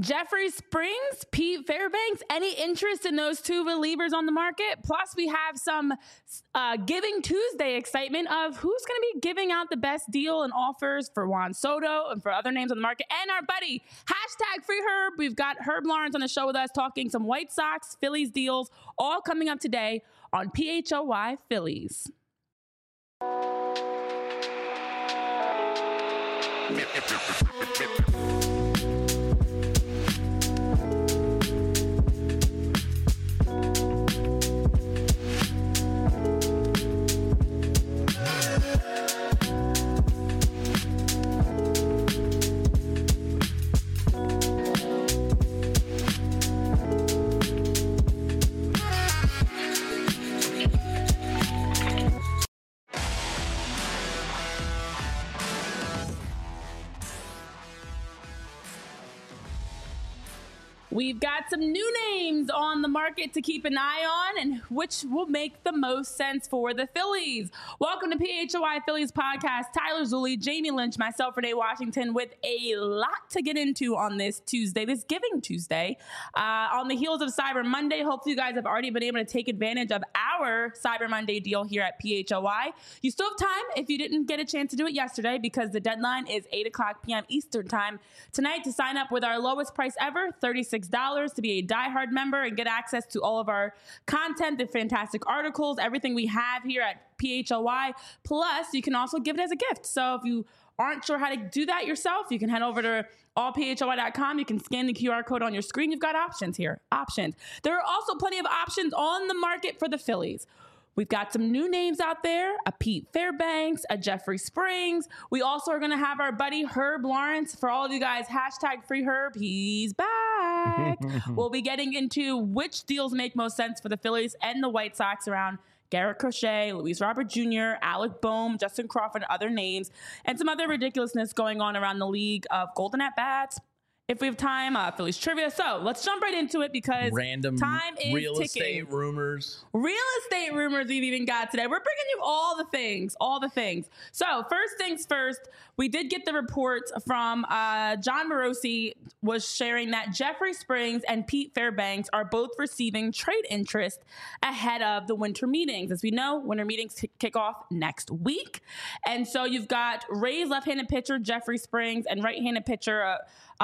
Jeffrey Springs, Pete Fairbanks, any interest in those two relievers on the market? Plus, we have some Giving Tuesday excitement of who's going to be giving out the best deal and offers for Juan Soto and for other names on the market. And our buddy, #FreeHerb. We've got Herb Lawrence on the show with us talking some White Sox, Phillies deals, all coming up today on PHOY Phillies. We've got some new names on the market to keep an eye on and which will make the most sense for the Phillies. Welcome to PHOY Phillies podcast. Tyler Zulli, Jamie Lynch, myself, Renee Washington, with a lot to get into on this Tuesday, this Giving Tuesday. On the heels of Cyber Monday, hopefully you guys have already been able to take advantage of our Cyber Monday deal here at PHOY. You still have time if you didn't get a chance to do it yesterday because the deadline is 8 o'clock p.m. Eastern time tonight to sign up with our lowest price ever, $36 to be a diehard member and get access to all of our content, the fantastic articles, everything we have here at PHOY. Plus, you can also give it as a gift. So if you aren't sure how to do that yourself, you can head over to allphoy.com. You can scan the QR code on your screen. You've got options here. Options. There are also plenty of options on the market for the Phillies. We've got some new names out there, a Pete Fairbanks, a Jeffrey Springs. We also are going to have our buddy Herb Lawrence. For all of you guys, #FreeHerb, he's back. We'll be getting into which deals make most sense for the Phillies and the White Sox around Garrett Crochet, Luis Robert Jr., Alec Boehm, Justin Crawford, and other names, and some other ridiculousness going on around the league of golden at-bats. If we have time, Phillies trivia. So let's jump right into it because random time is real ticking. estate rumors. Real estate rumors we've even got today. We're bringing you all the things, So first things first, we did get the report from John Morosi was sharing that Jeffrey Springs and Pete Fairbanks are both receiving trade interest ahead of the winter meetings. As we know, winter meetings kick off next week. And so you've got Rays left-handed pitcher Jeffrey Springs and right-handed pitcher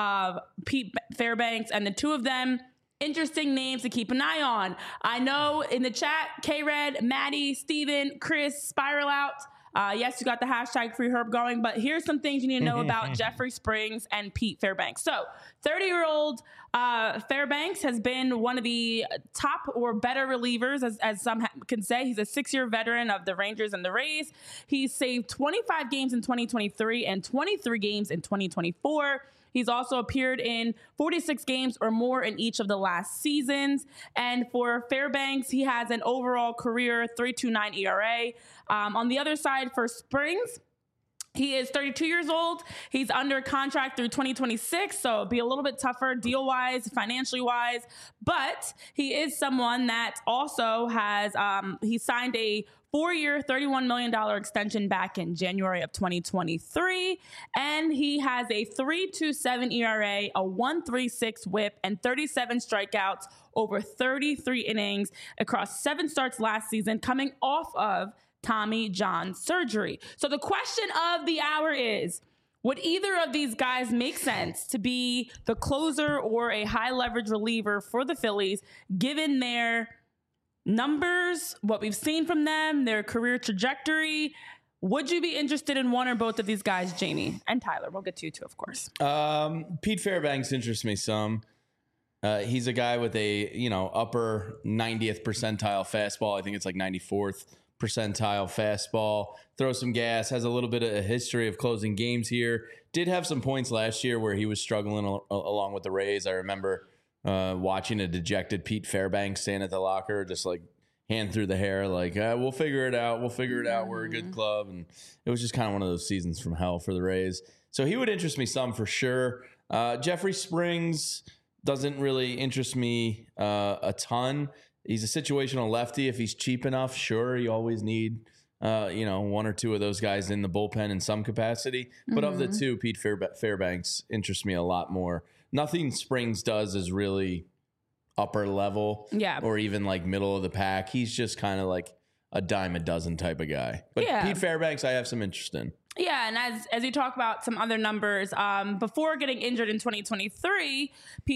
Pete Fairbanks, and the two of them, interesting names to keep an eye on. I know in the chat, K-Red, Maddie, Steven, Chris, Spiral Out. Yes, you got the #FreeHerb going, but here's some things you need to know about Jeffrey Springs and Pete Fairbanks. So 30-year-old Fairbanks has been one of the top or better relievers, as some can say. He's a 6-year veteran of the Rangers and the Rays. He's saved 25 games in 2023 and 23 games in 2024. He's also appeared in 46 games or more in each of the last seasons. And for Fairbanks, he has an overall career 3.29 ERA. On the other side for Springs, he is 32 years old. He's under contract through 2026, so it'll be a little bit tougher deal-wise, financially-wise. But he is someone that also has, he signed a 4-year, $31 million extension back in January of 2023. And he has a 3.27 ERA, a 1.36 whip, and 37 strikeouts over 33 innings across 7 starts last season, coming off of Tommy John surgery. So the question of the hour is, would either of these guys make sense to be the closer or a high leverage reliever for the Phillies, given their numbers, what we've seen from them, their career trajectory? Would you be interested in one or both of these guys, Jamie? And Tyler, we'll get to you too, of course. Pete Fairbanks interests me some. He's a guy with a, upper 90th percentile fastball. I think it's like 94th percentile fastball. Throws some gas, has a little bit of a history of closing games here. Did have some points last year where he was struggling along with the Rays. I remember watching a dejected Pete Fairbanks stand at the locker, just like hand through the hair, like, we'll figure it out. We're a good club. And it was just kind of one of those seasons from hell for the Rays. So he would interest me some for sure. Jeffrey Springs doesn't really interest me a ton. He's a situational lefty. If he's cheap enough, sure, you always need one or two of those guys in the bullpen in some capacity. But of the two, Pete Fairbanks interests me a lot more. Nothing Springs does is really upper level, or even like middle of the pack. He's just kind of like a dime a dozen type of guy. But Pete Fairbanks, I have some interest in. Yeah, and as you talk about some other numbers, before getting injured in 2023,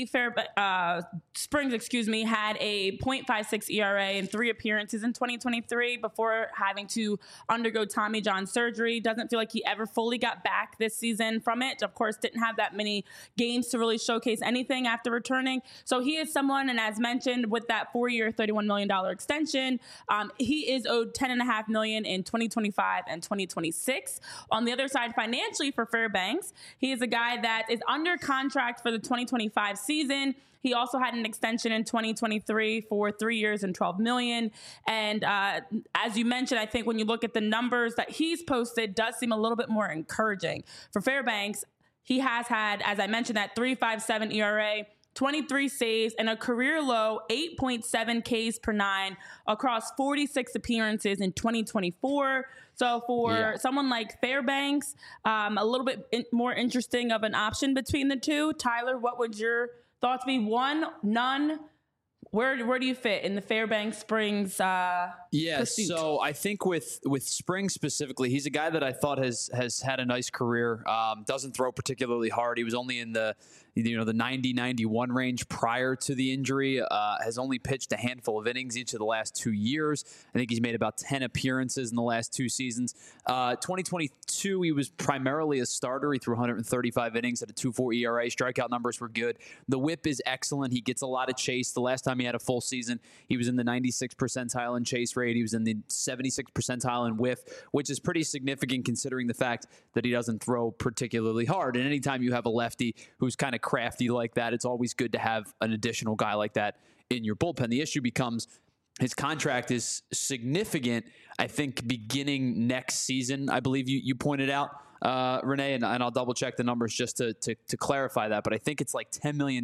Springs, had a .56 ERA in 3 appearances in 2023 before having to undergo Tommy John surgery. Doesn't feel like he ever fully got back this season from it. Of course, didn't have that many games to really showcase anything after returning. So he is someone, and as mentioned, with that 4-year, $31 million extension, he is owed $10.5 million in 2025 and 2026. On the other side, financially for Fairbanks, he is a guy that is under contract for the 2025 season. He also had an extension in 2023 for 3 years and $12 million. And as you mentioned, I think when you look at the numbers that he's posted, does seem a little bit more encouraging. For Fairbanks, he has had, as I mentioned, that 3.57 ERA, 23 saves, and a career low 8.7 Ks per 9 across 46 appearances in 2024. So for someone like Fairbanks, a little bit more interesting of an option between the two. Tyler, what would your thoughts be? One, none. Where do you fit in the Fairbanks Springs pursuit? So I think with Springs specifically, he's a guy that I thought has had a nice career. Doesn't throw particularly hard. He was only in the 90-91 range prior to the injury. Has only pitched a handful of innings each of the last 2 years. I think he's made about 10 appearances in the last 2 seasons. 2022, he was primarily a starter. He threw 135 innings at a 2.4 ERA. Strikeout numbers were good. The whip is excellent. He gets a lot of chase. The last time he had a full season, he was in the 96th percentile in chase rate. He was in the 76th percentile in whiff, which is pretty significant considering the fact that he doesn't throw particularly hard. And anytime you have a lefty who's kind of crafty like that, it's always good to have an additional guy like that in your bullpen. The issue becomes his contract is significant, I think, beginning next season. I believe you pointed out, Renee, and I'll double check the numbers just to clarify that. But I think it's like $10 million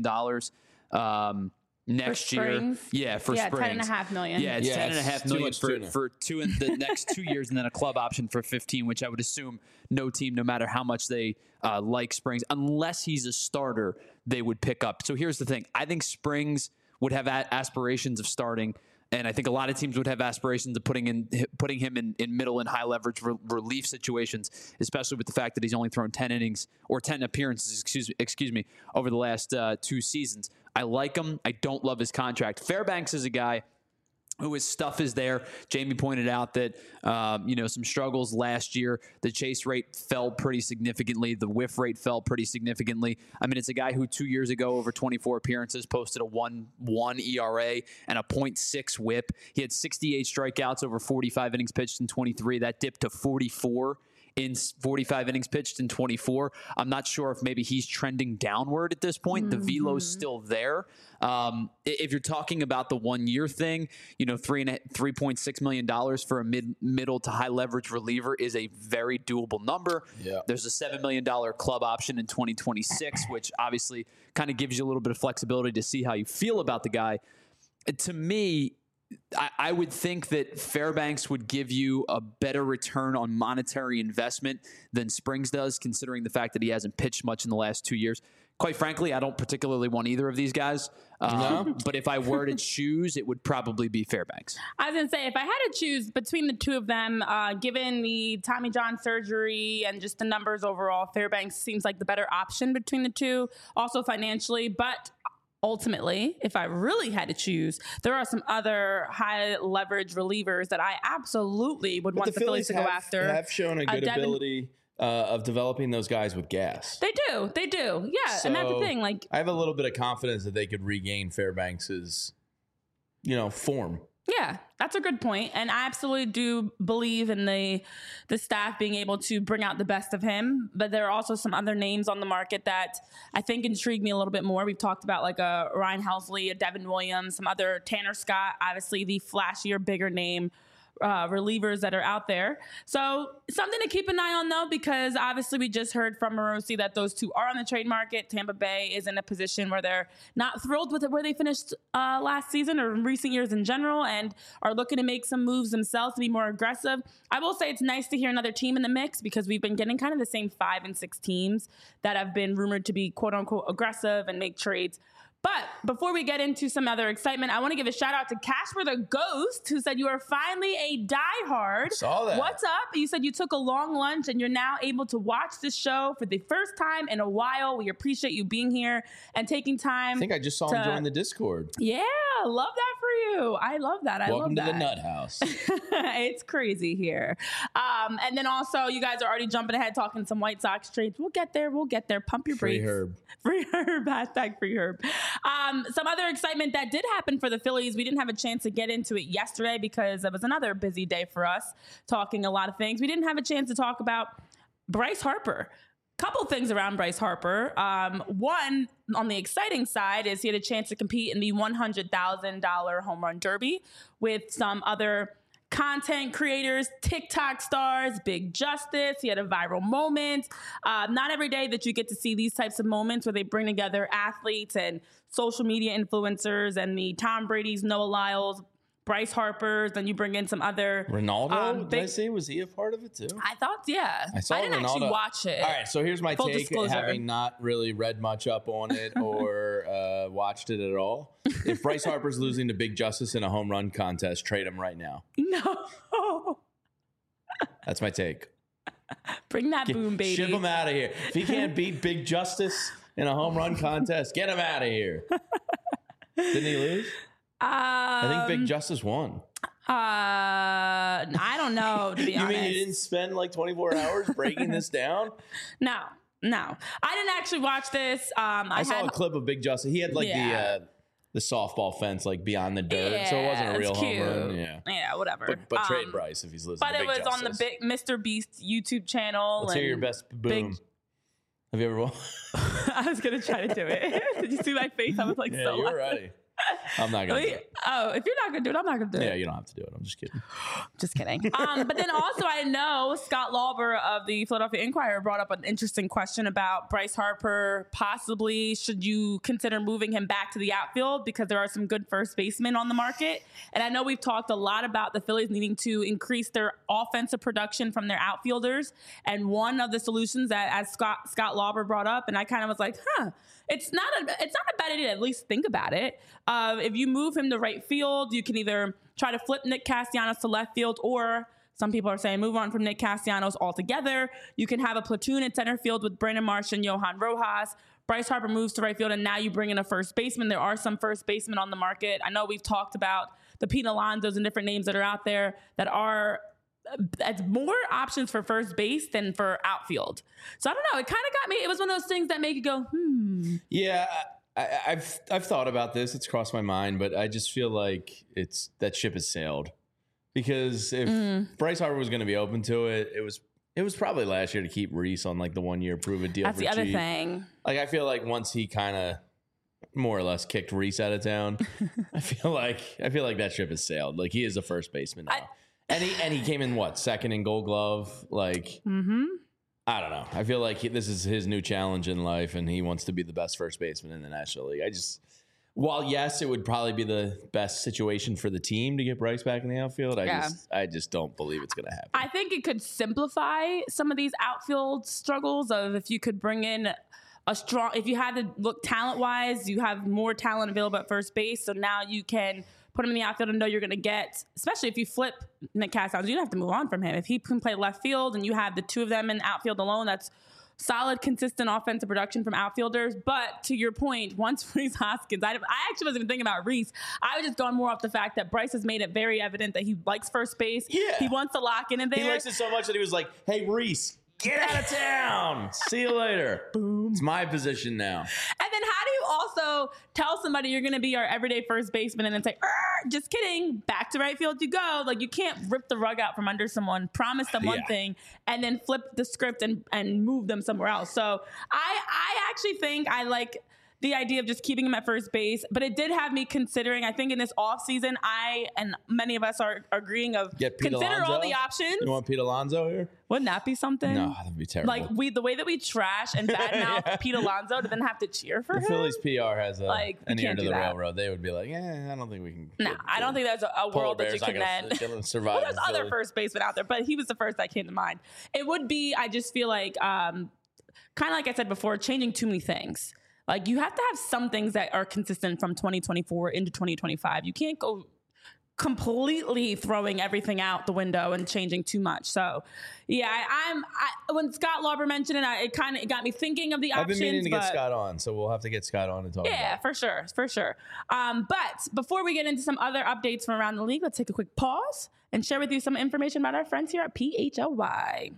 next year. Yeah, for Springs. $10.5 million. Yeah, it's $10.5 million for the next 2 years, and then a club option for 15, which I would assume no team, no matter how much they like Springs, unless he's a starter, they would pick up. So here's the thing. I think Springs would have aspirations of starting, and I think a lot of teams would have aspirations of putting him in middle and high leverage relief situations, especially with the fact that he's only thrown 10 innings or 10 appearances, excuse me, over the last 2 seasons. I like him. I don't love his contract. Fairbanks is a guy who his stuff is there. Jamie pointed out that, some struggles last year. The chase rate fell pretty significantly. The whiff rate fell pretty significantly. I mean, it's a guy who 2 years ago, over 24 appearances, posted a 1.1 ERA and a 0.6 whip. He had 68 strikeouts over 45 innings pitched in 23. That dipped to 44 in 45 innings pitched in 24. I'm not sure if maybe he's trending downward at this point. The velo's still there. If you're talking about the 1 year thing, $3.6 million for a middle to high leverage reliever is a very doable number. Yeah. There's a $7 million club option in 2026, which obviously kind of gives you a little bit of flexibility to see how you feel about the guy. To me, I would think that Fairbanks would give you a better return on monetary investment than Springs does, considering the fact that he hasn't pitched much in the last 2 years. Quite frankly, I don't particularly want either of these guys. But if I were to choose, it would probably be Fairbanks. I was going to say, if I had to choose between the two of them, given the Tommy John surgery and just the numbers overall, Fairbanks seems like the better option between the two, also financially. But ultimately, if I really had to choose, there are some other high leverage relievers that I absolutely would want the Phillies to go after. Have shown a good ability of developing those guys with gas. They do. Yeah, so, and that's the thing. Like, I have a little bit of confidence that they could regain Fairbanks's, form. Yeah, that's a good point. And I absolutely do believe in the staff being able to bring out the best of him. But there are also some other names on the market that I think intrigue me a little bit more. We've talked about like a Ryan Helsley, a Devin Williams, some other Tanner Scott, obviously the flashier, bigger name relievers that are out there. So something to keep an eye on, though, because obviously we just heard from Morosi that those two are on the trade market. Tampa Bay is in a position where they're not thrilled with where they finished last season or in recent years in general, and are looking to make some moves themselves to be more aggressive. I will say it's nice to hear another team in the mix, because we've been getting kind of the same 5 and 6 teams that have been rumored to be quote unquote aggressive and make trades. But before we get into some other excitement, I want to give a shout out to Casper the Ghost, who said you are finally a diehard. Saw that. What's up? You said you took a long lunch and you're now able to watch this show for the first time in a while. We appreciate you being here and taking time. I think I just saw him join the Discord. Yeah, love that for you. I love that. Welcome to that. the Nut House. It's crazy here. And then also, you guys are already jumping ahead talking some White Sox trades. We'll get there. Pump your brakes. Free Herb. Free Herb. Hashtag Free Herb. Some other excitement that did happen for the Phillies. We didn't have a chance to get into it yesterday because it was another busy day for us, talking a lot of things. We didn't have a chance to talk about Bryce Harper. Couple things around Bryce Harper. One, on the exciting side, is he had a chance to compete in the $100,000 home run derby with some other content creators, TikTok stars, Big Justice. He had a viral moment. Not every day that you get to see these types of moments where they bring together athletes and social media influencers and the Tom Brady's, Noah Lyles, Bryce Harper's, then you bring in some other Ronaldo. Did I say, was he a part of it too? I thought, yeah. I didn't Ronaldo. actually watch it. All right, so here's my Full take, disclosure. having not really read much up on it or watched it at all. If Bryce Harper's losing to Big Justice in a home run contest, trade him right now. No. That's my take. Bring that boom, baby. Ship him out of here. If he can't beat Big Justice in a home run contest, get him out of here. Didn't he lose? I think Big Justice won. I don't know, to be honest. You mean you didn't spend like 24 hours breaking this down? No. I didn't actually watch this. I saw a clip of Big Justice. He had like the softball fence like beyond the dirt, so it wasn't a real home run. Yeah, whatever. But trade Bryce if he's losing. But to it Big was Justice. on the big Mr. Beast YouTube channel. Let's hear your best boom. Have you ever? I was gonna try to do it. Did you see my face? I was like, yeah, you're ready. I'm not gonna do it. Oh, if you're not gonna do it, I'm not gonna do it. Yeah, you don't have to do it. I'm just kidding. Just kidding. But then also, I know Scott Lauber of the Philadelphia Inquirer brought up an interesting question about Bryce Harper. Possibly, should you consider moving him back to the outfield, because there are some good first basemen on the market? And I know we've talked a lot about the Phillies needing to increase their offensive production from their outfielders. And one of the solutions that, as Scott Lauber brought up, and I kind of was like, it's not a bad idea to at least think about it. If you move him to right field, you can either try to flip Nick Castellanos to left field, or some people are saying move on from Nick Castellanos altogether. You can have a platoon at center field with Brandon Marsh and Johan Rojas. Bryce Harper moves to right field, and now you bring in a first baseman. There are some first basemen on the market. I know we've talked about the Pete Alonsos and different names that are out there that are as more options for first base than for outfield. So I don't know. It kind of got me. It was one of those things that make you go, Yeah, I've thought about this. It's crossed my mind, but I just feel like that ship has sailed. Because if Bryce Harper was going to be open to it, it was probably last year to keep Reese on like the 1 year prove it deal. That's for the other cheap. thing. Like I feel like once he kind of more or less kicked Reese out of town, I feel like that ship has sailed. Like he is a first baseman now. And he came in second in Gold Glove. Like I don't know. I feel like this is his new challenge in life, and he wants to be the best first baseman in the National League. While yes, it would probably be the best situation for the team to get Bryce back in the outfield, I just don't believe it's going to happen. I think it could simplify some of these outfield struggles of if you could bring in if you had to look talent-wise, you have more talent available at first base, so now you can put him in the outfield and know you're going to get, especially if you flip Nick Castellanos, you don't have to move on from him. If he can play left field and you have the two of them in outfield alone, that's solid, consistent offensive production from outfielders. But to your point, once Reese Hoskins, I actually wasn't even thinking about Reese. I was just going more off the fact that Bryce has made it very evident that he likes first base. Yeah. He wants to lock in there. He likes it so much that he was like, hey, Reese, get out of town. See you later. Boom. It's my position now. And then how do you also tell somebody you're going to be our everyday first baseman and then say, just kidding, back to right field you go? Like, you can't rip the rug out from under someone, promise them one thing, and then flip the script and move them somewhere else. So I actually think I like the idea of just keeping him at first base, but it did have me considering, I think in this offseason, I and many of us are agreeing of consider all the options. You want Pete Alonso here? Wouldn't that be something? No, that'd be terrible. Like the way that we trash and badmouth Pete Alonso to then have to cheer for him. The Phillies PR has an ear to the that. railroad. They would be like, I don't think we can. No, I don't think that's a world that you can then survive. Well, there's other first basemen out there, but he was the first that came to mind. It would be, I just feel like, kind of like I said before, changing too many things. Like you have to have some things that are consistent from 2024 into 2025. You can't go completely throwing everything out the window and changing too much. So, yeah, when Scott Lauber mentioned it, it got me thinking of the options. I've been meaning to get Scott on, so we'll have to get Scott on and talk about it. For sure. But before we get into some other updates from around the league, let's take a quick pause and share with you some information about our friends here at PHLY.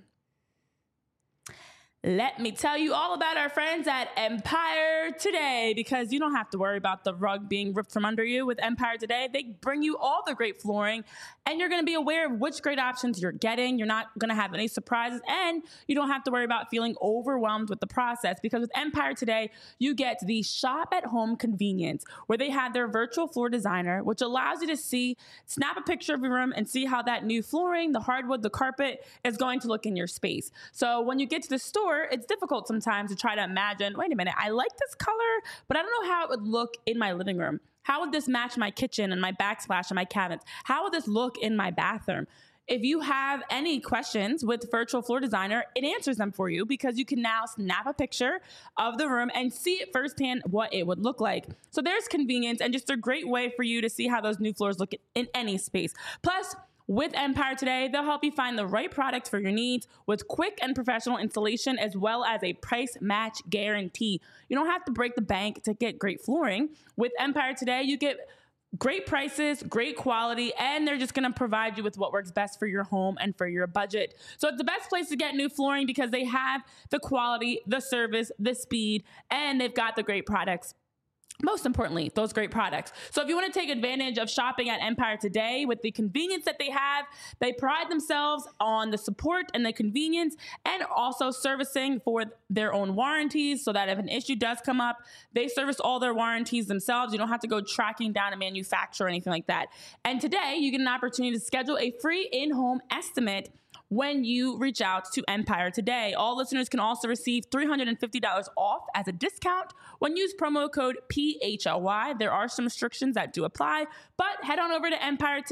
Let me tell you all about our friends at Empire Today, because you don't have to worry about the rug being ripped from under you with Empire Today. They bring you all the great flooring, and you're going to be aware of which great options you're getting. You're not going to have any surprises, and you don't have to worry about feeling overwhelmed with the process, because with Empire Today, you get the shop-at-home convenience, where they have their virtual floor designer, which allows you to snap a picture of your room and see how that new flooring, the hardwood, the carpet is going to look in your space. So when you get to the store, it's difficult sometimes to try to imagine, wait a minute, I like this color, but I don't know how it would look in my living room. How would this match my kitchen and my backsplash and my cabinets? How would this look in my bathroom? If you have any questions with Virtual Floor Designer, it answers them for you, because you can now snap a picture of the room and see it firsthand what it would look like. So there's convenience and just a great way for you to see how those new floors look in any space. Plus, with Empire Today, they'll help you find the right product for your needs with quick and professional installation, as well as a price match guarantee. You don't have to break the bank to get great flooring. With Empire Today, you get great prices, great quality, and they're just going to provide you with what works best for your home and for your budget. So it's the best place to get new flooring, because they have the quality, the service, the speed, and they've got the great products. Most importantly, those great products. So if you want to take advantage of shopping at Empire Today with the convenience that they have, they pride themselves on the support and the convenience, and also servicing for their own warranties, so that if an issue does come up, they service all their warranties themselves. You don't have to go tracking down a manufacturer or anything like that. And today you get an opportunity to schedule a free in-home estimate when you reach out to Empire Today. All listeners can also receive $350 off as a discount when you use promo code PHLY. There are some restrictions that do apply, but head on over to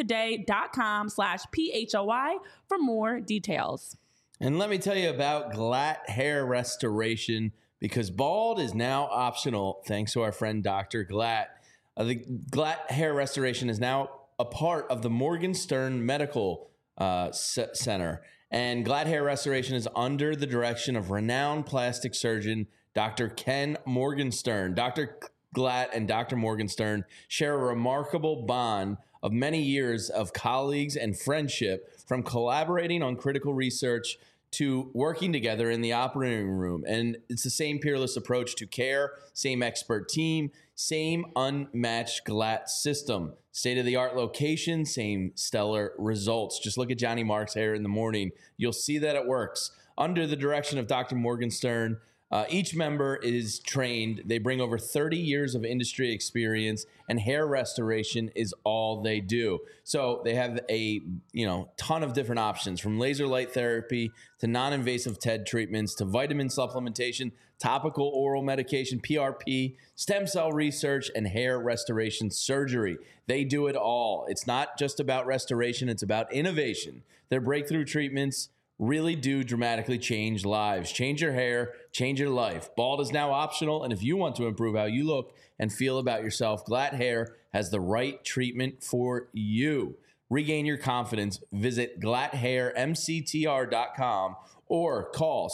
empiretoday.com/PHLY for more details. And let me tell you about Glatt Hair Restoration, because bald is now optional thanks to our friend Dr. Glatt. The Glatt Hair Restoration is now a part of the Morgenstern Medical Center, and Glatt Hair Restoration is under the direction of renowned plastic surgeon Dr. Ken Morgenstern. Dr. Glatt and Dr. Morgenstern share a remarkable bond of many years of colleagues and friendship, from collaborating on critical research to working together in the operating room. And it's the same peerless approach to care, same expert team, same unmatched Glatt system. State-of-the-art location, same stellar results. Just look at Johnny Mark's hair in the morning. You'll see that it works. Under the direction of Dr. Morgenstern, each member is trained. They bring over 30 years of industry experience, and hair restoration is all they do. So they have a ton of different options, from laser light therapy to non-invasive TED treatments to vitamin supplementation, topical oral medication, PRP, stem cell research, and hair restoration surgery. They do it all. It's not just about restoration, it's about innovation. Their breakthrough treatments really do dramatically change lives. Change your hair, change your life. Bald is now optional, and if you want to improve how you look and feel about yourself, Glatt Hair has the right treatment for you. Regain your confidence. Visit glatthairmctr.com or call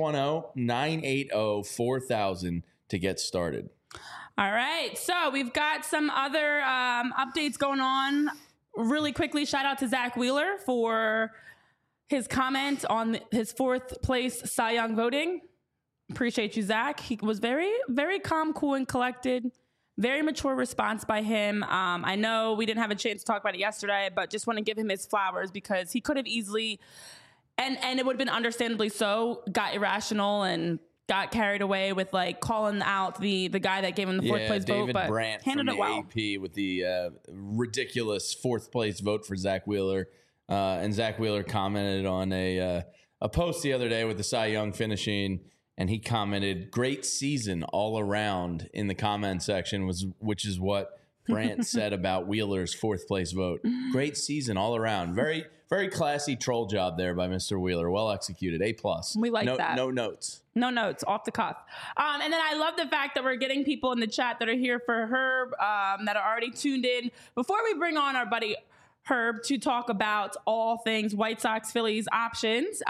610-980-4000 to get started. All right, so we've got some other updates going on. Really quickly, shout out to Zach Wheeler for his comment on his fourth place Cy Young voting. Appreciate you, Zach. He was very, very calm, cool, and collected. Very mature response by him. I know we didn't have a chance to talk about it yesterday, but just want to give him his flowers, because he could have easily, and it would have been understandably so, got irrational and got carried away with like calling out the guy that gave him the fourth place David vote, but Brandt handled from it the well. AP with the ridiculous fourth place vote for Zach Wheeler. And Zach Wheeler commented on a post the other day with the Cy Young finishing, and he commented, "Great season all around" in the comment section, which is what Brandt said about Wheeler's fourth place vote. Great season all around. Very, very classy troll job there by Mr. Wheeler. Well executed. A+. We like that. No notes. No notes, off the cuff. And then I love the fact that we're getting people in the chat that are here for Herb, that are already tuned in. Before we bring on our buddy Herb to talk about all things White Sox Phillies options,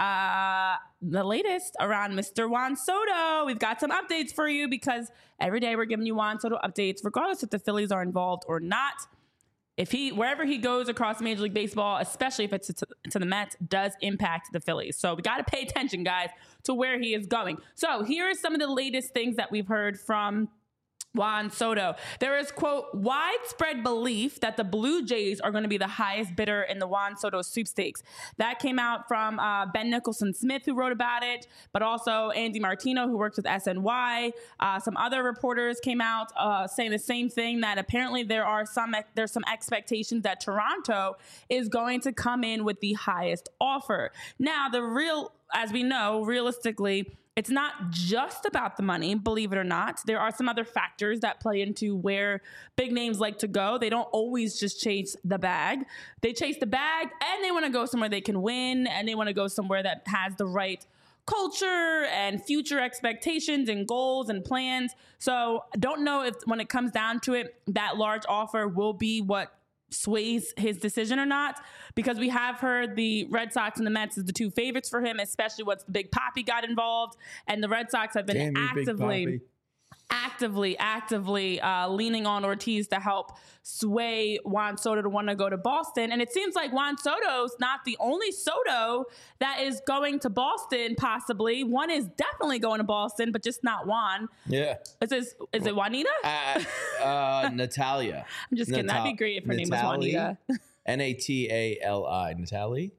the latest around Mr. Juan Soto. We've got some updates for you because every day we're giving you Juan Soto updates, regardless if the Phillies are involved or not. Wherever he goes across Major League Baseball, especially if it's to the Mets, does impact the Phillies. So we got to pay attention, guys, to where he is going. So here are some of the latest things that we've heard from Juan Soto. There is, quote, widespread belief that the Blue Jays are going to be the highest bidder in the Juan Soto sweepstakes. That came out from Ben Nicholson Smith, who wrote about it, but also Andy Martino, who works with SNY. Some other reporters came out saying the same thing, that apparently there's some expectations that Toronto is going to come in with the highest offer. Now, as we know, realistically, it's not just about the money, believe it or not. There are some other factors that play into where big names like to go. They don't always just chase the bag. They chase the bag and they want to go somewhere they can win, and they want to go somewhere that has the right culture and future expectations and goals and plans. So I don't know if when it comes down to it, that large offer will be what sways his decision or not, because we have heard the Red Sox and the Mets as the two favorites for him, especially once the Big Papi got involved, and the Red Sox have been actively leaning on Ortiz to help sway Juan Soto to want to go to Boston. And it seems like Juan Soto's not the only Soto that is going to Boston, possibly. One is definitely going to Boston, but just not Juan. Yeah. Is it Juanita? Natalia. I'm just kidding. That'd be great if her name was Juanita. Natali. Natalie?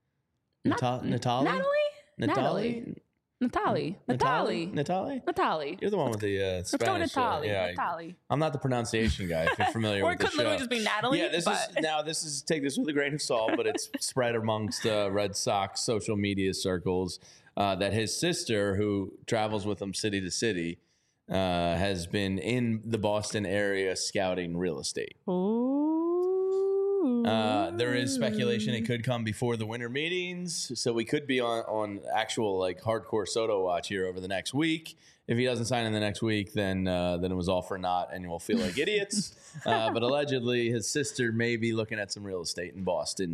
Natali? You're the one with the Spanish. Natali. I'm not the pronunciation guy, if you're familiar with the show. Or it could literally just be Natalie. Yeah, this is take this with a grain of salt, but it's spread amongst Red Sox social media circles that his sister, who travels with him city to city, has been in the Boston area scouting real estate. Ooh. There is speculation it could come before the winter meetings, so we could be on actual like hardcore Soto watch here over the next week. If he doesn't sign in the next week, then it was all for naught, and we'll feel like idiots. But allegedly, his sister may be looking at some real estate in Boston.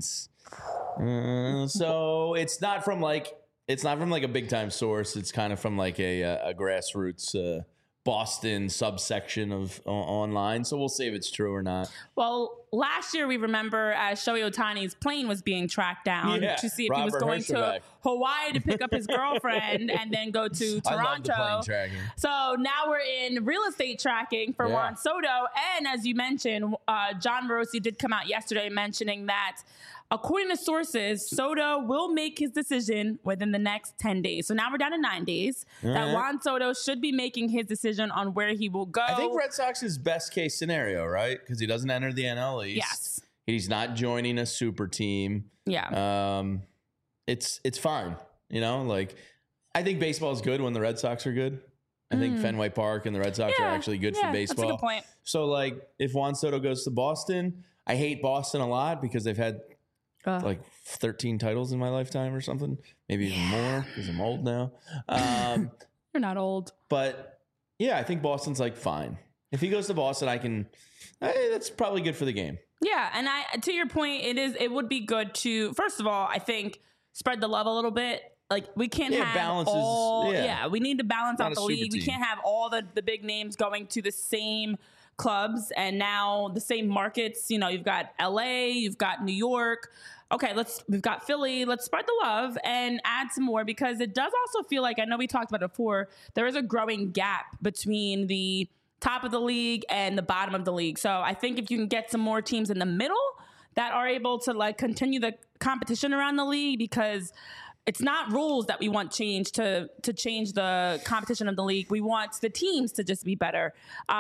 So it's not from like a big time source. It's kind of from like a grassroots Boston subsection of online. So we'll see if it's true or not. Well, last year we remember as Shohei Ohtani's plane was being tracked down to see if he was going to Hawaii to pick up his girlfriend and then go to Toronto. I love the plane tracking. So now we're in real estate tracking for Juan Soto. And as you mentioned, John Morosi did come out yesterday mentioning that according to sources, Soto will make his decision within the next 10 days. So now we're down to 9 days. That Juan Soto should be making his decision on where he will go. I think Red Sox's best case scenario, right? Because he doesn't enter the NL East. Yes. He's not joining a super team. Yeah. It's fine. You know, like I think baseball is good when the Red Sox are good. I think Fenway Park and the Red Sox are actually good for baseball. That's a good point. So like if Juan Soto goes to Boston, I hate Boston a lot because they've had like 13 titles in my lifetime or something, maybe even more because I'm old now. You're not old. But yeah, I think Boston's like fine. If he goes to Boston, that's probably good for the game. Yeah, and to your point, it would be good to, first of all, I think spread the love a little bit. Like we can't have balances, all. We need to balance out the league. Team. We can't have all the big names going to the same clubs and now the same markets. You know, you've got LA, you've got New York. Okay, we've got Philly. Let's spread the love and add some more, because it does also feel like, I know we talked about it before, there is a growing gap between the top of the league and the bottom of the league. So I think if you can get some more teams in the middle that are able to like continue the competition around the league, because it's not rules that we want changed to change the competition of the league. We want the teams to just be better.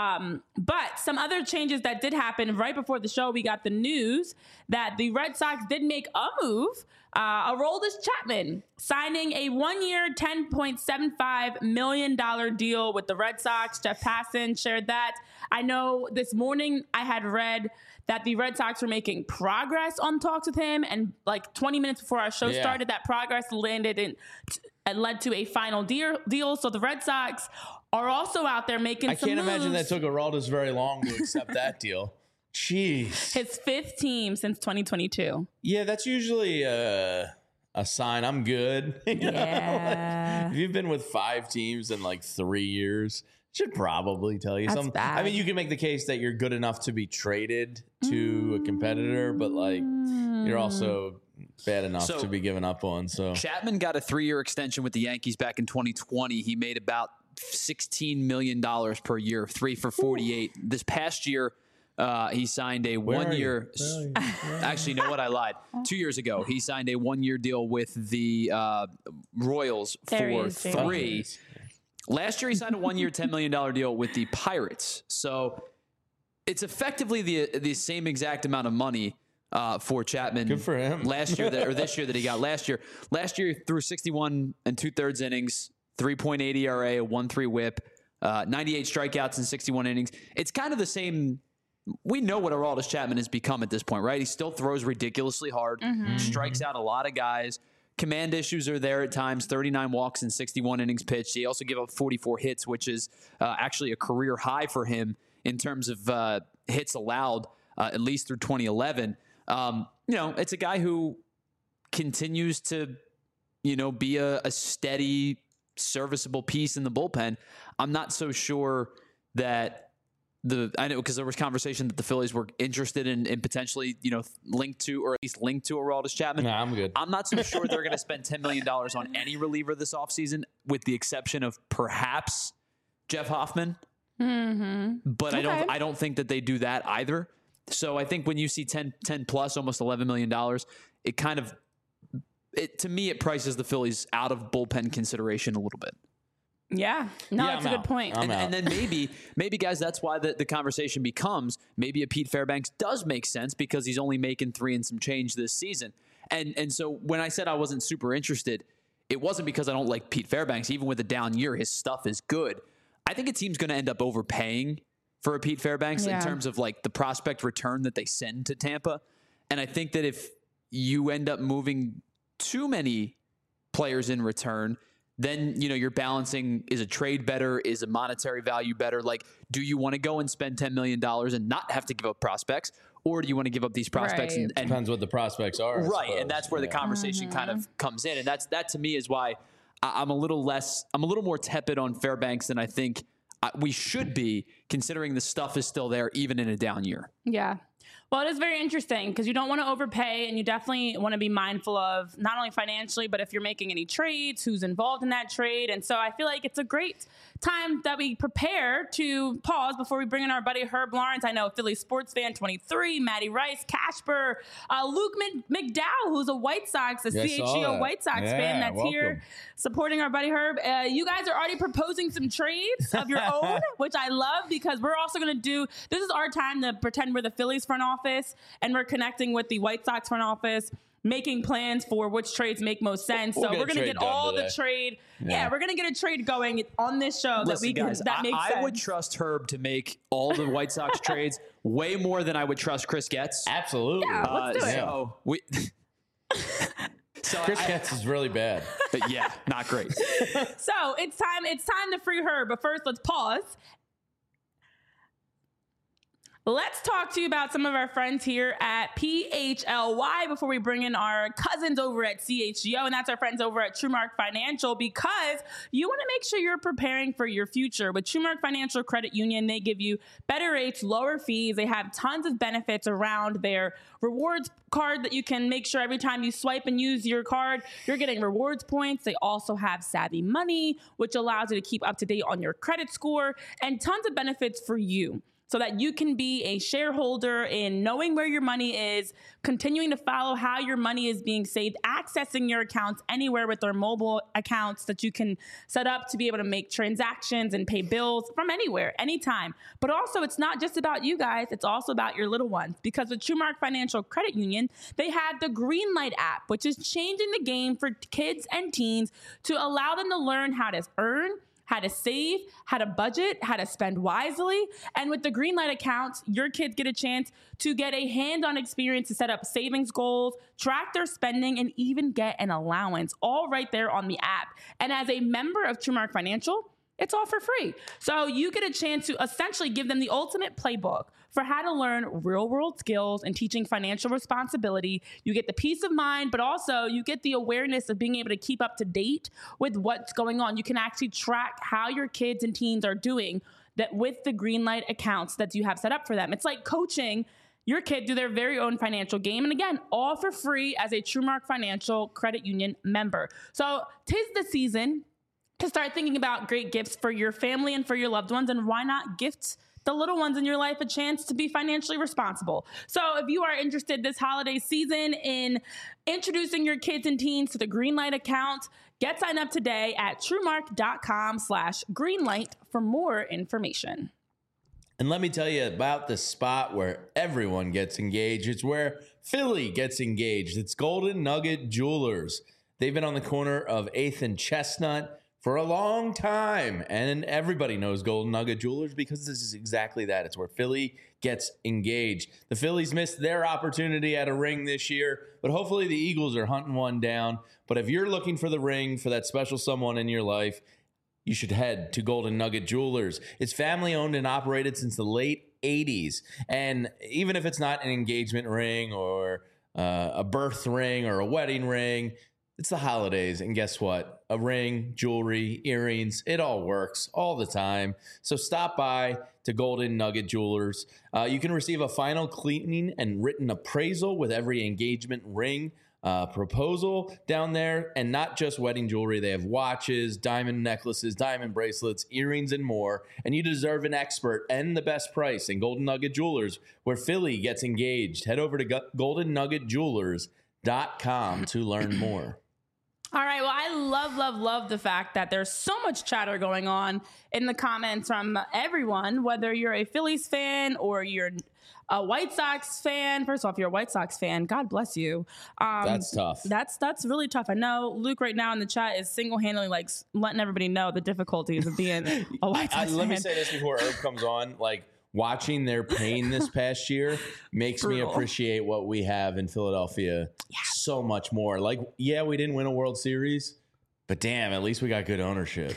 But some other changes that did happen right before the show, we got the news that the Red Sox did make a move. Aroldis Chapman signing a 1-year, $10.75 million deal with the Red Sox. Jeff Passan shared that. I know this morning I had read that the Red Sox were making progress on talks with him, and like 20 minutes before our show started, that progress landed in and led to a final deal. So the Red Sox are also out there making some moves. I can't imagine that took Aroldis very long to accept that deal. Jeez. His 5th team since 2022. Yeah, that's usually a sign I'm good. Like, if you've been with 5 teams in like 3 years, should probably tell you something. Bad. I mean, you can make the case that you're good enough to be traded to a competitor, but like you're also bad enough to be given up on. So Chapman got a 3-year extension with the Yankees back in 2020. He made about $16 million per year, 3 for 48. This past year, he signed a 1-year. Actually, you know what? I lied. 2 years ago, he signed a 1-year deal with the Royals for 3. Last year, he signed a 1-year, $10 million deal with the Pirates. So it's effectively the same exact amount of money for Chapman. Good for him. Last year or this year that he got last year. Last year, he threw 61 2/3 innings, 3.8 ERA, a 1.3 WHIP, 98 strikeouts in 61 innings. It's kind of the same. We know what Aroldis Chapman has become at this point, right? He still throws ridiculously hard, strikes out a lot of guys. Command issues are there at times, 39 walks and 61 innings pitched. He also gave up 44 hits, which is actually a career high for him in terms of hits allowed, at least through 2011. It's a guy who continues to, be a steady, serviceable piece in the bullpen. I'm not so sure that I know because there was conversation that the Phillies were interested in potentially, linked to Aroldis Chapman. No, I'm good. I'm not so sure they're going to spend $10 million on any reliever this offseason, with the exception of perhaps Jeff Hoffman. Mm-hmm. But okay. I don't think that they do that either. So I think when you see 10 plus, almost $11 million, to me, it prices the Phillies out of bullpen consideration a little bit. Yeah, that's a good point. And then maybe guys, that's why the conversation becomes maybe a Pete Fairbanks does make sense because he's only making 3 and some change this season. And so when I said I wasn't super interested, it wasn't because I don't like Pete Fairbanks. Even with a down year, his stuff is good. I think a team's going to end up overpaying for a Pete Fairbanks in terms of like the prospect return that they send to Tampa. And I think that if you end up moving too many players in return, then, you're balancing, is a trade better? Is a monetary value better? Like, do you want to go and spend $10 million and not have to give up prospects? Or do you want to give up these prospects? Right. And depends what the prospects are. Right. And that's where the conversation kind of comes in. And that to me is why I'm a little more tepid on Fairbanks than I think we should be, considering the stuff is still there, even in a down year. Yeah. Well, it is very interesting because you don't want to overpay, and you definitely want to be mindful of not only financially, but if you're making any trades, who's involved in that trade. And so I feel like it's a great time that we prepare to pause before we bring in our buddy Herb Lawrence. I know Philly sports fan 23, Matty Rice, Casper, Luke McDowell, who's a White Sox, CHGO White Sox fan that's here supporting our buddy Herb. You guys are already proposing some trades of your own, which I love because we're also going to this is our time to pretend we're the Phillies front office and we're connecting with the White Sox front office, making plans for which trades make most sense. So we're going to get all the trade. Yeah, we're going to get a trade going on this show. Listen, makes sense. I would trust Herb to make all the White Sox trades way more than I would trust Chris Getz. Absolutely. Yeah, let's do it. So Chris Getz is really bad. But yeah, not great. So it's time to free Herb. But first, let's pause. Let's talk to you about some of our friends here at PHLY before we bring in our cousins over at CHGO, and that's our friends over at TrueMark Financial, because you want to make sure you're preparing for your future. With TrueMark Financial Credit Union, they give you better rates, lower fees. They have tons of benefits around their rewards card that you can make sure every time you swipe and use your card, you're getting rewards points. They also have Savvy Money, which allows you to keep up to date on your credit score, and tons of benefits for you. so that you can be a shareholder in knowing where your money is, continuing to follow how your money is being saved, accessing your accounts anywhere with their mobile accounts that you can set up to be able to make transactions and pay bills from anywhere, anytime. But also, it's not just about you guys, it's also about your little ones. Because with TrueMark Financial Credit Union, they have the Greenlight app, which is changing the game for kids and teens to allow them to learn how to earn, how to save, how to budget, how to spend wisely. And with the Greenlight accounts, your kids get a chance to get a hands-on experience to set up savings goals, track their spending, and even get an allowance, all right there on the app. And as a member of TrueMark Financial, it's all for free. So you get a chance to essentially give them the ultimate playbook for how to learn real-world skills and teaching financial responsibility. You get the peace of mind, but also you get the awareness of being able to keep up to date with what's going on. You can actually track how your kids and teens are doing that with the Greenlight accounts that you have set up for them. It's like coaching your kid through their very own financial game. And again, all for free as a TrueMark Financial Credit Union member. So 'tis the season to start thinking about great gifts for your family and for your loved ones. And why not gift the little ones in your life a chance to be financially responsible? So if you are interested this holiday season in introducing your kids and teens to the Greenlight account, get signed up today at truemark.com/greenlight for more information. And let me tell you about the spot where everyone gets engaged. It's where Philly gets engaged. It's Golden Nugget Jewelers. They've been on the corner of 8th and Chestnut for a long time, and everybody knows Golden Nugget Jewelers because this is exactly that. It's where Philly gets engaged. The Phillies missed their opportunity at a ring this year, but hopefully the Eagles are hunting one down. But if you're looking for the ring for that special someone in your life, you should head to Golden Nugget Jewelers. It's family owned and operated since the late 80s. And even if it's not an engagement ring or a birth ring or a wedding ring, it's the holidays, and guess what? A ring, jewelry, earrings, it all works all the time. So stop by to Golden Nugget Jewelers. You can receive a final cleaning and written appraisal with every engagement ring proposal down there. And not just wedding jewelry. They have watches, diamond necklaces, diamond bracelets, earrings, and more. And you deserve an expert and the best price in Golden Nugget Jewelers, where Philly gets engaged. Head over to goldennuggetjewelers.com to learn more. All right. Well, I love the fact that there's so much chatter going on in the comments from everyone, whether you're a Phillies fan or you're a White Sox fan. First off, if you're a White Sox fan, God bless you. That's tough. That's really tough. I know Luke right now in the chat is single-handedly like letting everybody know the difficulties of being a White Sox fan. Let me say this before Herb comes on. Like, watching their pain this past year makes me appreciate what we have in Philadelphia so much more. Like, yeah, we didn't win a World Series, but damn, at least we got good ownership.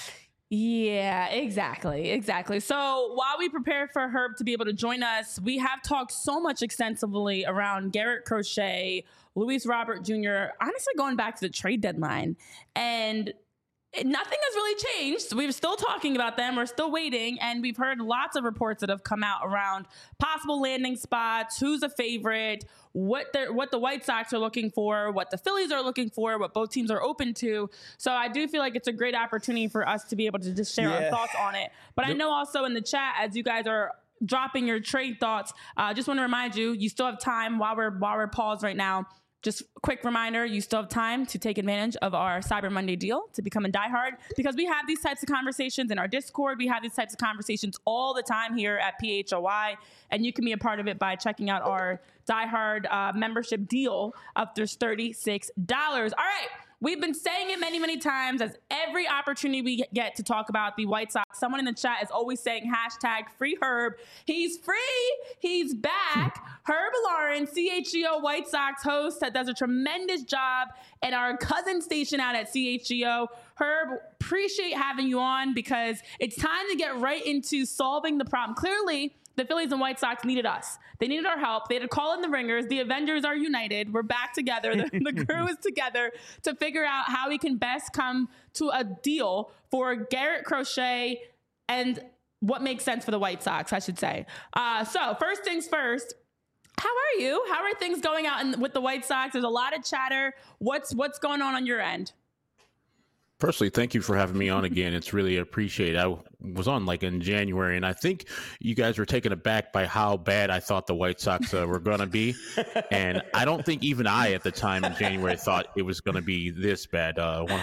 Yeah, exactly. So while we prepare for Herb to be able to join us, we have talked so much extensively around Garrett Crochet, Luis Robert Jr., honestly going back to the trade deadline. And nothing has really changed. We're still talking about them. We're still waiting. And we've heard lots of reports that have come out around possible landing spots, who's a favorite, what the White Sox are looking for, what the Phillies are looking for, what both teams are open to. So I do feel like it's a great opportunity for us to be able to just share our thoughts on it. But I know also in the chat, as you guys are dropping your trade thoughts, just want to remind you, you still have time while we're paused right now. Just a quick reminder, you still have time to take advantage of our Cyber Monday deal to become a diehard, because we have these types of conversations in our Discord. We have these types of conversations all the time here at PHOI, and you can be a part of it by checking out our diehard membership deal of just $36. All right. We've been saying it many, many times as every opportunity we get to talk about the White Sox. Someone in the chat is always saying #FreeHerb. He's free. He's back. Herb Lauren, CHGO White Sox host that does a tremendous job at our cousin station out at CHGO. Herb, appreciate having you on because it's time to get right into solving the problem. Clearly, the Phillies and White Sox needed us. They needed our help. They had to call in the ringers. The Avengers are united. We're back together. The crew is together to figure out how we can best come to a deal for Garrett Crochet and what makes sense for the White Sox, I should say. So first things first, how are you? How are things going out with the White Sox? There's a lot of chatter. What's going on your end? Firstly, thank you for having me on again. It's really appreciated. I was on like in January, and I think you guys were taken aback by how bad I thought the White Sox were going to be. And I don't think even I at the time in January thought it was going to be this bad.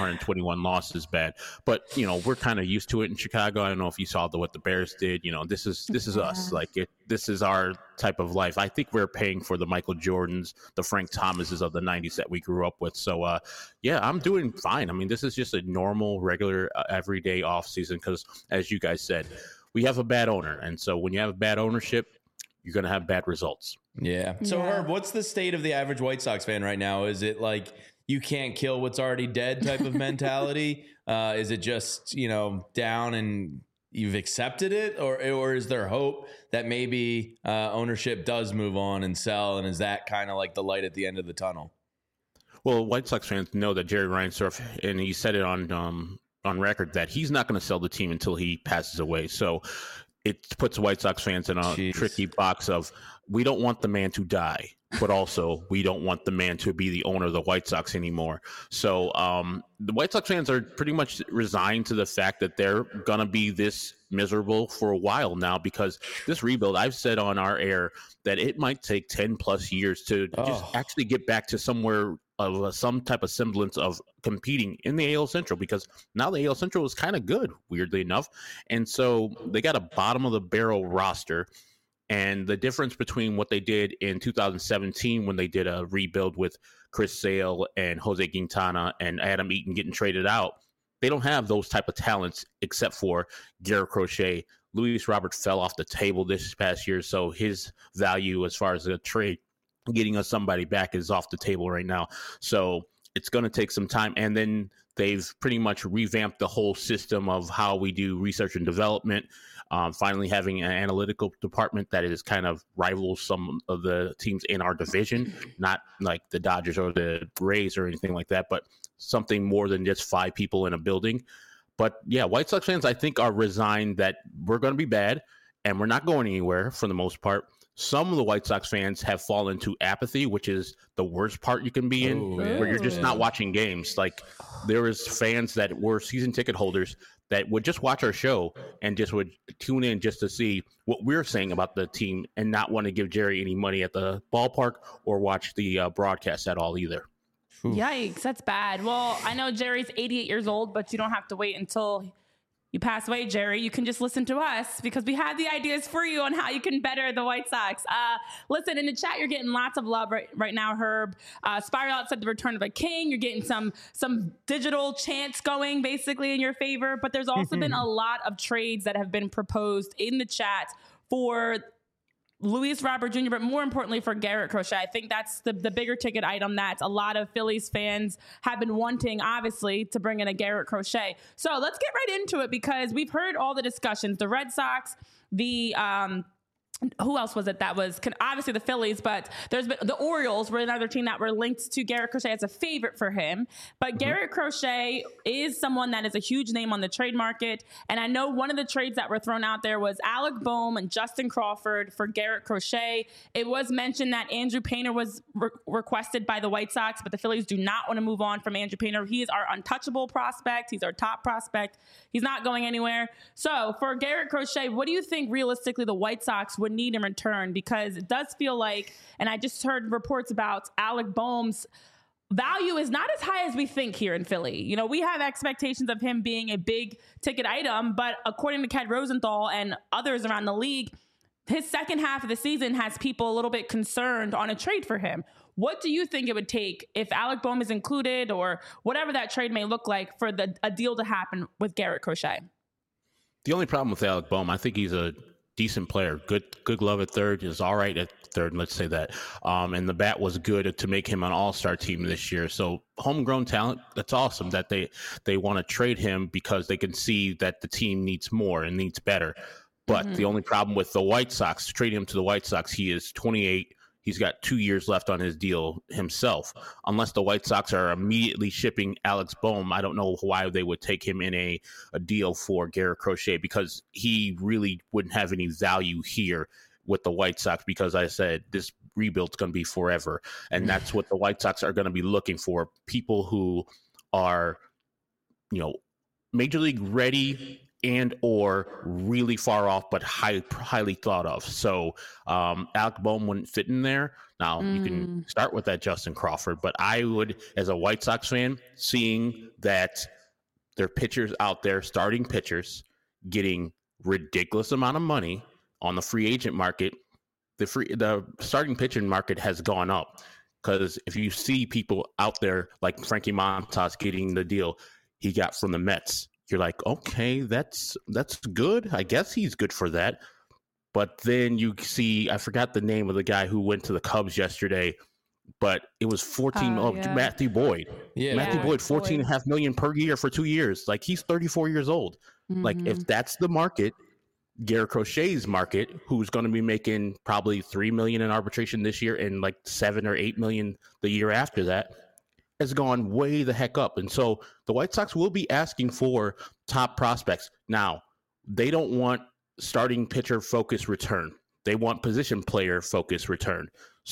121 losses bad. But, you know, we're kind of used to it in Chicago. I don't know if you saw what the Bears did. You know, this is us. Like, this is our type of life. I think we're paying for the Michael Jordans, the Frank Thomases of the 90s that we grew up with. So, yeah, I'm doing fine. I mean, this is just a normal, regular, everyday off season because, as you guys said, we have a bad owner. And so when you have bad ownership, you're going to have bad results. Yeah. So, Herb, what's the state of the average White Sox fan right now? Is it like you can't kill what's already dead type of mentality? Is it just, you know, down and you've accepted it? Or is there hope that maybe ownership does move on and sell? And is that kind of like the light at the end of the tunnel? Well, White Sox fans know that Jerry Reinsdorf, and he said it on record, that he's not going to sell the team until he passes away. So it puts White Sox fans in a tricky box of, we don't want the man to die, but also we don't want the man to be the owner of the White Sox anymore. So the White Sox fans are pretty much resigned to the fact that they're going to be this miserable for a while now, because this rebuild, I've said on our air that it might take 10 plus years to just actually get back to somewhere of some type of semblance of competing in the AL Central, because now the AL Central is kind of good, weirdly enough. And so they got a bottom of the barrel roster. And the difference between what they did in 2017 when they did a rebuild with Chris Sale and Jose Quintana and Adam Eaton getting traded out, they don't have those type of talents except for Garrett Crochet. Luis Robert fell off the table this past year, so his value as far as a trade, getting us somebody back, is off the table right now. So it's going to take some time. And then they've pretty much revamped the whole system of how we do research and development. Finally having an analytical department that is kind of rivals some of the teams in our division, not like the Dodgers or the Rays or anything like that, but something more than just 5 people in a building. But yeah, White Sox fans, I think, are resigned that we're going to be bad and we're not going anywhere for the most part. Some of the White Sox fans have fallen into apathy, which is the worst part you can be in, where you're just not watching games. Like, there was fans that were season ticket holders that would just watch our show and just would tune in just to see what we're saying about the team and not want to give Jerry any money at the ballpark or watch the broadcast at all either. Yikes, that's bad. Well, I know Jerry's 88 years old, but you don't have to wait until you pass away, Jerry. You can just listen to us because we have the ideas for you on how you can better the White Sox. Listen, in the chat, you're getting lots of love right now, Herb. Spiral Out said the return of a king. You're getting some digital chants going basically in your favor. But there's also been a lot of trades that have been proposed in the chat for Luis Robert Jr., but more importantly for Garrett Crochet. I think that's the bigger ticket item that a lot of Phillies fans have been wanting, obviously, to bring in a Garrett Crochet. So let's get right into it because we've heard all the discussions. The Red Sox, the who else was it that was obviously the Phillies, but there's been the Orioles were another team that were linked to Garrett Crochet as a favorite for him. But Garrett Crochet is someone that is a huge name on the trade market. And I know one of the trades that were thrown out there was Alec Bohm and Justin Crawford for Garrett Crochet. It was mentioned that Andrew Painter was requested by the White Sox, but the Phillies do not want to move on from Andrew Painter. He is our untouchable prospect. He's our top prospect. He's not going anywhere. So for Garrett Crochet, what do you think realistically the White Sox would need in return? Because it does feel like, and I just heard reports about Alec Bohm's value is not as high as we think here in Philly. You know, we have expectations of him being a big ticket item, but according to Ken Rosenthal and others around the league, his second half of the season has people a little bit concerned on a trade for him. What do you think it would take if Alec Bohm is included or whatever that trade may look like for a deal to happen with Garrett Crochet? The only problem with Alec Bohm, I think he's a decent player. Good glove at third, is all right at third, let's say that. And the bat was good to make him an all-star team this year. So homegrown talent, that's awesome that they want to trade him because they can see that the team needs more and needs better. But the only problem with the White Sox, trading him to the White Sox, he is 28. He's got 2 years left on his deal himself. Unless the White Sox are immediately shipping Alex Bohm, I don't know why they would take him in a deal for Garrett Crochet, because he really wouldn't have any value here with the White Sox, because I said this rebuild's going to be forever. And that's what the White Sox are going to be looking for, people who are, you know, major league ready and or really far off but highly thought of. So Alec Bohm wouldn't fit in there. Now, you can start with that Justin Crawford, but I would, as a White Sox fan, seeing that their pitchers out there, starting pitchers, getting ridiculous amount of money on the free agent market, the starting pitching market has gone up. Because if you see people out there like Frankie Montas getting the deal he got from the Mets, you're like, okay, that's good. I guess he's good for that. But then you see, I forgot the name of the guy who went to the Cubs yesterday, but it was Matthew Boyd. Yeah, Matthew Boyd, $14.5 million per year for 2 years. Like, he's 34 years old. Like, if that's the market, Garrett Crochet's market, who's going to be making probably $3 million in arbitration this year and like $7 or $8 million the year after that, has gone way the heck up. And so the White Sox will be asking for top prospects. Now, they don't want starting pitcher focus return. They want position player focus return.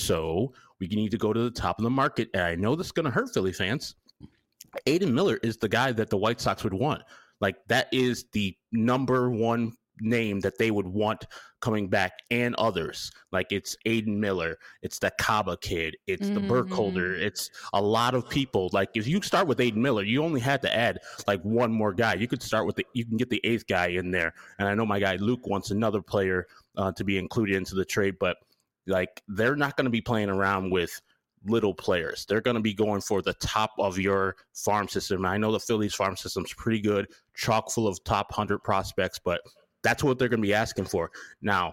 So we need to go to the top of the market. And I know this is going to hurt Philly fans. Aiden Miller is the guy that the White Sox would want. Like, that is the number one name that they would want coming back, and others. Like, it's Aiden Miller, it's the Kaba kid, it's the Burkholder, it's a lot of people. Like, if you start with Aiden Miller, you only had to add like one more guy. You could start with you can get the 8th guy in there. And I know my guy Luke wants another player to be included into the trade, but like, they're not going to be playing around with little players. They're going to be going for the top of your farm system. I know the Phillies farm system's pretty good, chock full of top 100 prospects, but that's what they're going to be asking for. Now,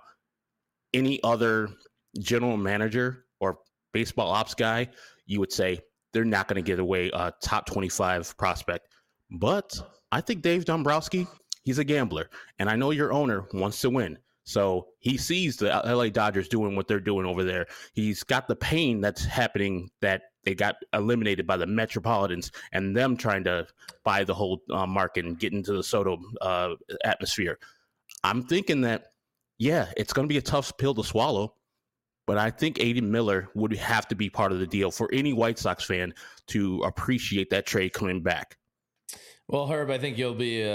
any other general manager or baseball ops guy, you would say they're not going to get away a top 25 prospect. But I think Dave Dombrowski, he's a gambler. And I know your owner wants to win. So he sees the LA Dodgers doing what they're doing over there. He's got the pain that's happening, that they got eliminated by the Metropolitans and them trying to buy the whole market and get into the Soto atmosphere. I'm thinking that, yeah, it's going to be a tough pill to swallow, but I think Aiden Miller would have to be part of the deal for any White Sox fan to appreciate that trade coming back. Well, Herb, I think you'll be,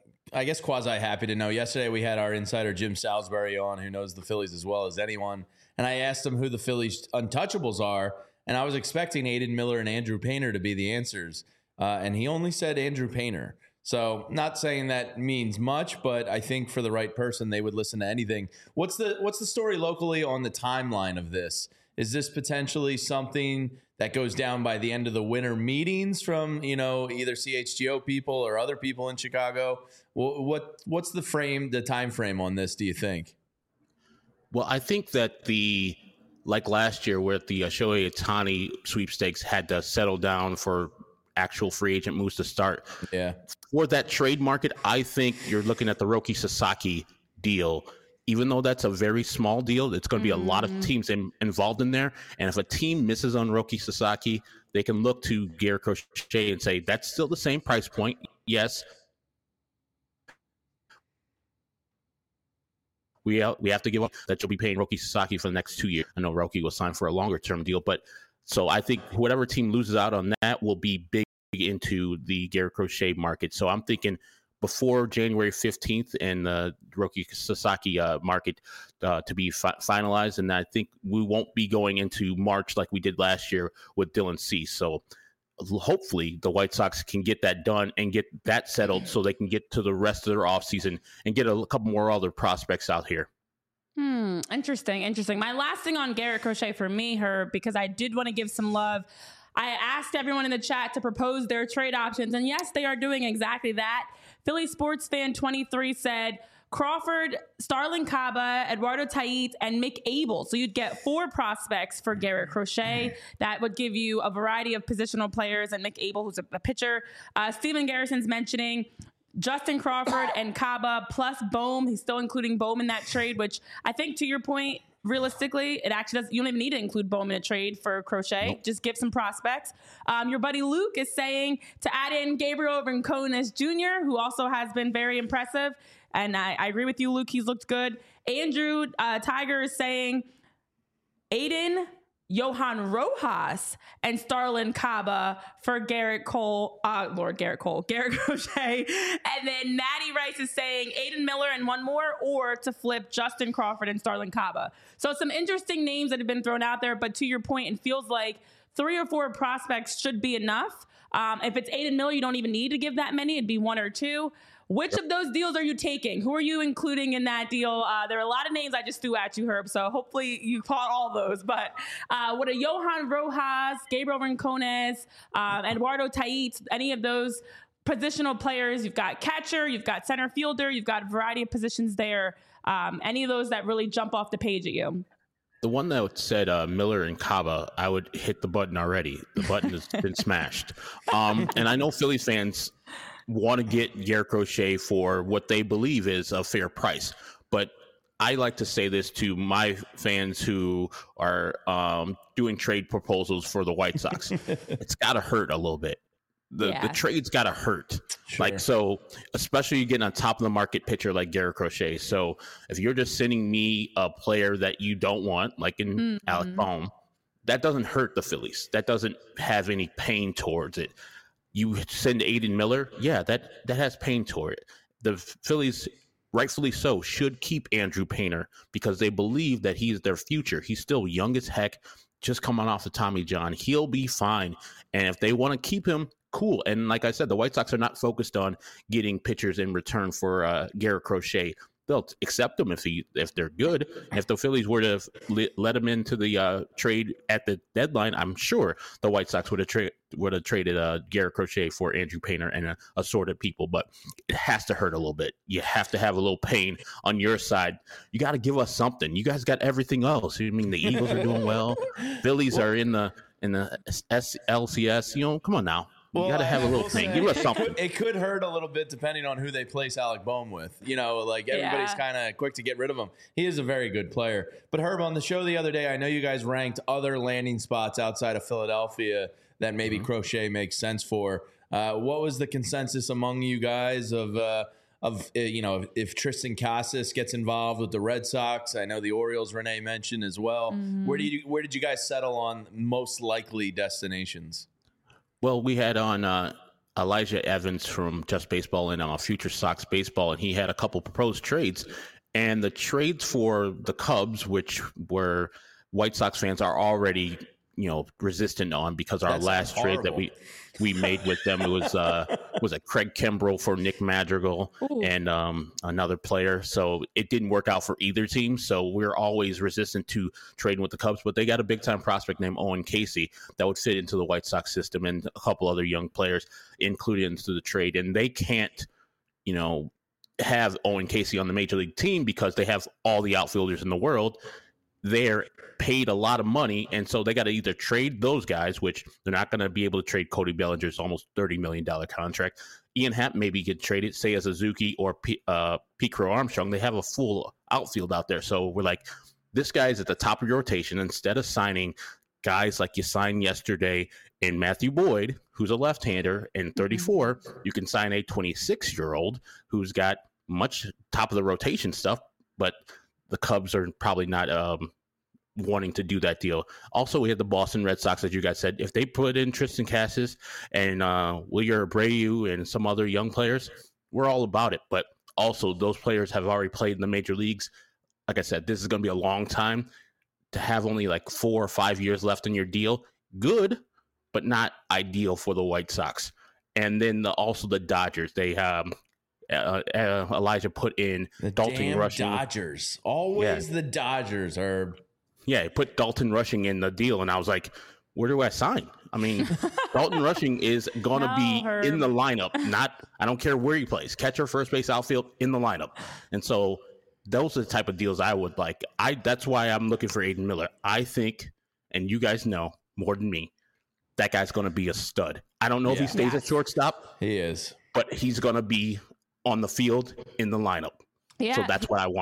I guess, quasi-happy to know. Yesterday we had our insider Jim Salisbury on, who knows the Phillies as well as anyone, and I asked him who the Phillies untouchables are, and I was expecting Aiden Miller and Andrew Painter to be the answers, and he only said Andrew Painter. So, not saying that means much, but I think for the right person, they would listen to anything. What's the story locally on the timeline of this? Is this potentially something that goes down by the end of the winter meetings from, either CHGO people or other people in Chicago? What's the time frame on this, do you think? Well, I think that like last year where the Shohei Ohtani sweepstakes had to settle down for actual free agent moves to start. Yeah. For that trade market, I think you're looking at the Roki Sasaki deal. Even though that's a very small deal, it's going to be a lot of teams involved in there. And if a team misses on Roki Sasaki, they can look to Garrett Crochet and say, that's still the same price point. Yes. We have to give up that you'll be paying Roki Sasaki for the next 2 years. I know Roki was signed for a longer-term deal, but so I think whatever team loses out on that will be big into the Garrett Crochet market. So I'm thinking before January 15th and the Roki Sasaki market to be finalized. And I think we won't be going into March like we did last year with Dylan Cease. So hopefully the White Sox can get that done and get that settled so they can get to the rest of their offseason and get a couple more other prospects out here. Interesting. My last thing on Garrett Crochet for me, Herb, because I did want to give some love. I asked everyone in the chat to propose their trade options, and yes, they are doing exactly that. Philly Sports Fan 23 said Crawford, Starlin Caba, Eduardo Tait, and Mick Abel. So you'd get 4 prospects for Garrett Crochet. That would give you a variety of positional players, and Mick Abel, who's a pitcher. Steven Garrison's mentioning Justin Crawford and Caba plus Bohm. He's still including Bohm in that trade, which I think, to your point, realistically, it actually doesn't. You don't even need to include Bohm in a trade for Crochet. Nope. Just give some prospects. Your buddy Luke is saying to add in Gabriel Rincones Jr., who also has been very impressive. And I agree with you, Luke. He's looked good. Andrew Tiger is saying, Aiden, Johan Rojas and Starlin Caba for Garrett Crochet. And then Natty Rice is saying Aiden Miller and one more, or to flip Justin Crawford and Starlin Caba. So some interesting names that have been thrown out there, but to your point, it feels like 3 or 4 prospects should be enough. If it's Aiden Miller, you don't even need to give that many. It'd be 1 or 2. Which of those deals are you taking? Who are you including in that deal? There are a lot of names I just threw at you, Herb, so hopefully you caught all those. But with a Johan Rojas, Gabriel Rincones, Eduardo Tait, any of those positional players, you've got catcher, you've got center fielder, you've got a variety of positions there. Any of those that really jump off the page at you? The one that said Miller and Caba, I would hit the button already. The button has been smashed. And I know Phillies fans want to get Garrett Crochet for what they believe is a fair price. But I like to say this to my fans who are doing trade proposals for the White Sox. It's got to hurt a little bit. The trade's got to hurt. Sure. Like, so especially you getting on top of the market pitcher like Garrett Crochet. So if you're just sending me a player that you don't want, like in Alec Bohm, that doesn't hurt the Phillies. That doesn't have any pain towards it. You send Aiden Miller, that has pain toward it. The Phillies, rightfully so, should keep Andrew Painter because they believe that he is their future. He's still young as heck, just coming off the Tommy John. He'll be fine. And if they want to keep him, cool. And like I said, the White Sox are not focused on getting pitchers in return for Garrett Crochet. They'll accept them if they're good. And if the Phillies were to let him into the trade at the deadline, I'm sure the White Sox would have traded Garrett Crochet for Andrew Painter and assorted people. But it has to hurt a little bit. You have to have a little pain on your side. You got to give us something. You guys got everything else. I mean, the Eagles are doing well. Phillies are in the LCS. Come on now. You got to have a little thing. Give us something. It could hurt a little bit depending on who they place Alec Bohm with. Everybody's kind of quick to get rid of him. He is a very good player. But Herb, on the show the other day, I know you guys ranked other landing spots outside of Philadelphia that maybe Crochet makes sense for. What was the consensus among you guys of if Tristan Casas gets involved with the Red Sox? I know the Orioles Renee mentioned as well. Where did you guys settle on most likely destinations? Well, we had on Elijah Evans from Just Baseball and Future Sox Baseball, and he had a couple proposed trades. And the trades for the Cubs, which were White Sox fans are already, resistant on because our last trade that we made with them, it was a Craig Kimbrell for Nick Madrigal and another player. So it didn't work out for either team. So we're always resistant to trading with the Cubs, but they got a big time prospect named Owen Casey that would fit into the White Sox system and a couple other young players included into the trade. And they can't, have Owen Casey on the major league team because they have all the outfielders in the world. They're paid a lot of money, and so they got to either trade those guys, which they're not going to be able to trade Cody Bellinger's almost $30 million contract. Ian Happ maybe get traded, say as Suzuki or Pete Crow Armstrong. They have a full outfield out there. So we're like, this guy's at the top of your rotation. Instead of signing guys like you signed yesterday in Matthew Boyd, who's a left-hander and 34, you can sign a 26-year-old who's got much top of the rotation stuff, but the Cubs are probably not wanting to do that deal. Also, we had the Boston Red Sox, as you guys said. If they put in Tristan Casas and Wilyer Abreu and some other young players, we're all about it. But also, those players have already played in the major leagues. Like I said, this is going to be a long time. To have only like 4 or 5 years left in your deal, good, but not ideal for the White Sox. And then also the Dodgers. They Elijah put in the Dalton Rushing. Dodgers. Always the Dodgers are. Yeah, he put Dalton Rushing in the deal, and I was like, where do I sign? I mean, Dalton Rushing is going to be in the lineup. I don't care where he plays. Catcher, first base, outfield, in the lineup. And so those are the type of deals I would like. That's why I'm looking for Aiden Miller. I think, and you guys know more than me, that guy's going to be a stud. I don't know if he stays at shortstop. He is. But he's going to be on the field in the lineup. Yeah. So that's what I want him.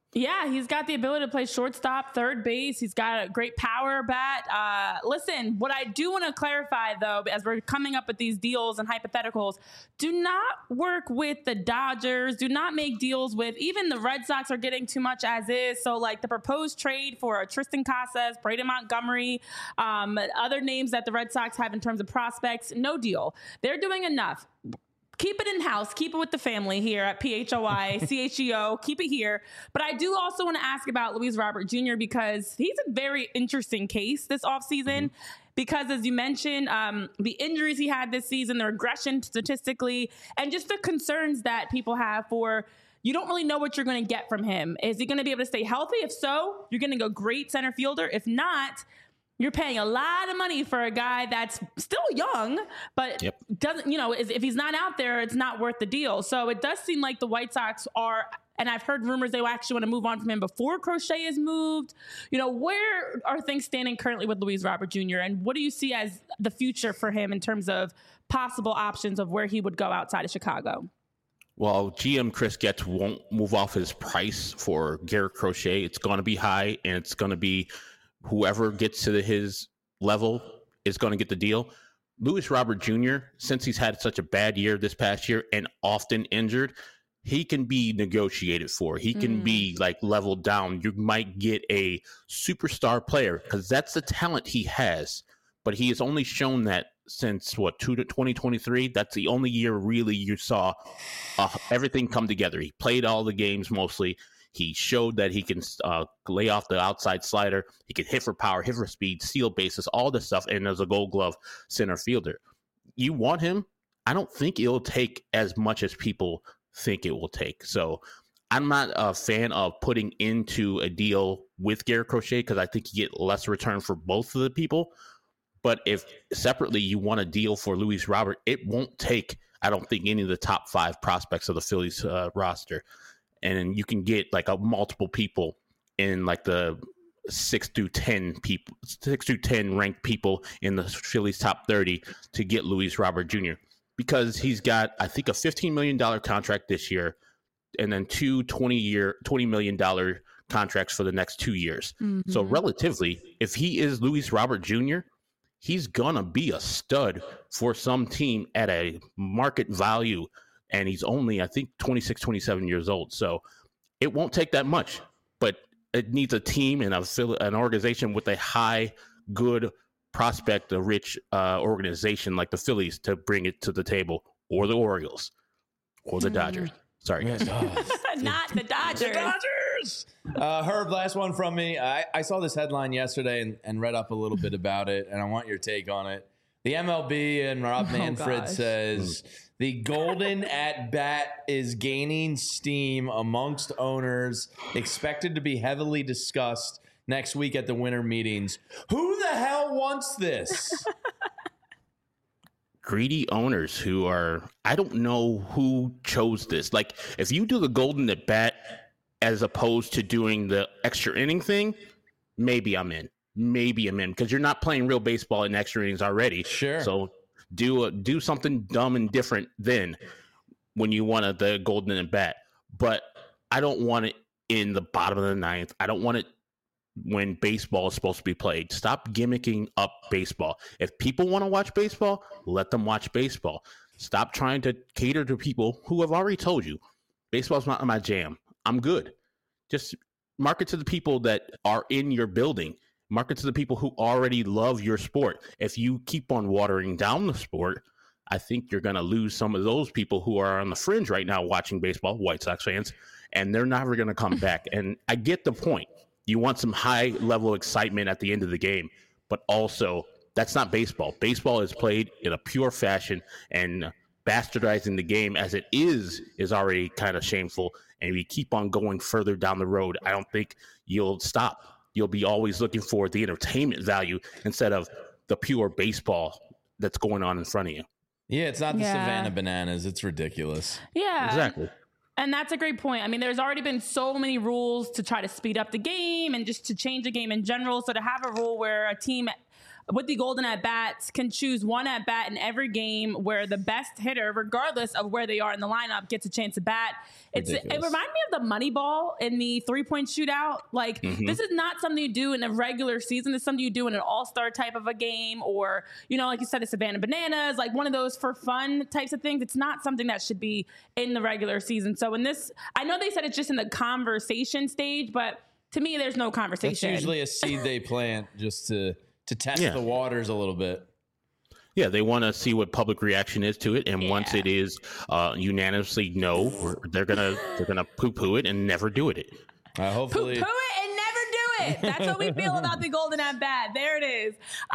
Yeah, he's got the ability to play shortstop, third base. He's got a great power bat. Listen, what I do want to clarify, though, as we're coming up with these deals and hypotheticals, do not work with the Dodgers. Do not make deals with, even the Red Sox are getting too much as is. So, like the proposed trade for Tristan Casas, Braden Montgomery, other names that the Red Sox have in terms of prospects, no deal. They're doing enough. Keep it in-house. Keep it with the family here at PHOI, CHEO. Keep it here. But I do also want to ask about Luis Robert Jr. because he's a very interesting case this offseason. Because as you mentioned, the injuries he had this season, the regression statistically, and just the concerns that people have for, you don't really know what you're going to get from him. Is he going to be able to stay healthy? If so, you're getting a great center fielder. If not, you're paying a lot of money for a guy that's still young, but doesn't, if he's not out there, it's not worth the deal. So it does seem like the White Sox are, and I've heard rumors they will actually want to move on from him before Crochet is moved. Where are things standing currently with Luis Robert Jr. and what do you see as the future for him in terms of possible options of where he would go outside of Chicago? Well, GM Chris Getz won't move off his price for Garrett Crochet. It's going to be high, and it's going to be whoever gets to his level is going to get the deal. Luis Robert Jr., since he's had such a bad year this past year and often injured, he can be negotiated for. He can be like leveled down. You might get a superstar player because that's the talent he has. But he has only shown that since 2023. That's the only year really you saw everything come together. He played all the games mostly. He showed that he can lay off the outside slider. He can hit for power, hit for speed, steal bases, all this stuff. And as a Gold Glove center fielder, you want him. I don't think it'll take as much as people think it will take. So I'm not a fan of putting into a deal with Garrett Crochet because I think you get less return for both of the people. But if separately you want a deal for Luis Robert, it won't take, I don't think, any of the top 5 prospects of the Phillies roster. And you can get like multiple people in like the 6 through 10 ranked people in the Phillies top 30 to get Luis Robert Jr. because he's got, I think, a $15 million contract this year and then 2 $20 million contracts for the next 2 years. Mm-hmm. So relatively, if he is Luis Robert Jr., he's going to be a stud for some team at a market value. And he's only, I think, 26, 27 years old. So it won't take that much, but it needs a team and an organization with a high, good prospect, a rich organization like the Phillies to bring it to the table, or the Orioles, or the Dodgers. Sorry, guys. Not the Dodgers. The Dodgers! Herb, last one from me. I saw this headline yesterday and read up a little bit about it, and I want your take on it. The MLB and Rob Manfred says the golden at bat is gaining steam amongst owners, expected to be heavily discussed next week at the winter meetings. Who the hell wants this? Greedy owners who are, I don't know who chose this. Like, if you do the golden at bat as opposed to doing the extra inning thing, maybe I'm in. Because you're not playing real baseball in extra innings already. Sure. So do something dumb and different then when you want the golden at bat. But I don't want it in the bottom of the ninth. I don't want it when baseball is supposed to be played. Stop gimmicking up baseball. If people want to watch baseball, let them watch baseball. Stop trying to cater to people who have already told you baseball's not my jam. I'm good. Just market to the people that are in your building. Market to the people who already love your sport. If you keep on watering down the sport, I think you're going to lose some of those people who are on the fringe right now watching baseball, White Sox fans, and they're never going to come back. And I get the point. You want some high level excitement at the end of the game, but also that's not baseball. Baseball is played in a pure fashion, and bastardizing the game as it is already kind of shameful. And if you keep on going further down the road, I don't think you'll stop. You'll be always looking for the entertainment value instead of the pure baseball that's going on in front of you. Yeah, it's not the Savannah Bananas. It's ridiculous. Yeah. Exactly. And that's a great point. I mean, there's already been so many rules to try to speed up the game and just to change the game in general. So to have a rule where a team with the Golden at Bats can choose one at bat in every game where the best hitter, regardless of where they are in the lineup, gets a chance to bat. It reminds me of the Moneyball in the 3-point shootout. Like, this is not something you do in a regular season. It's something you do in an all-star type of a game, or, like you said, the Savannah Bananas, like one of those for fun types of things. It's not something that should be in the regular season. So in this, I know they said it's just in the conversation stage, but to me, there's no conversation. It's usually a seed they plant just to test the waters a little bit. Yeah, they want to see what public reaction is to it, and once it is unanimously no, they're gonna poo-poo it and never do it. Hopefully, poo-poo it and never do it. That's what we feel about the Golden at Bat. There it is.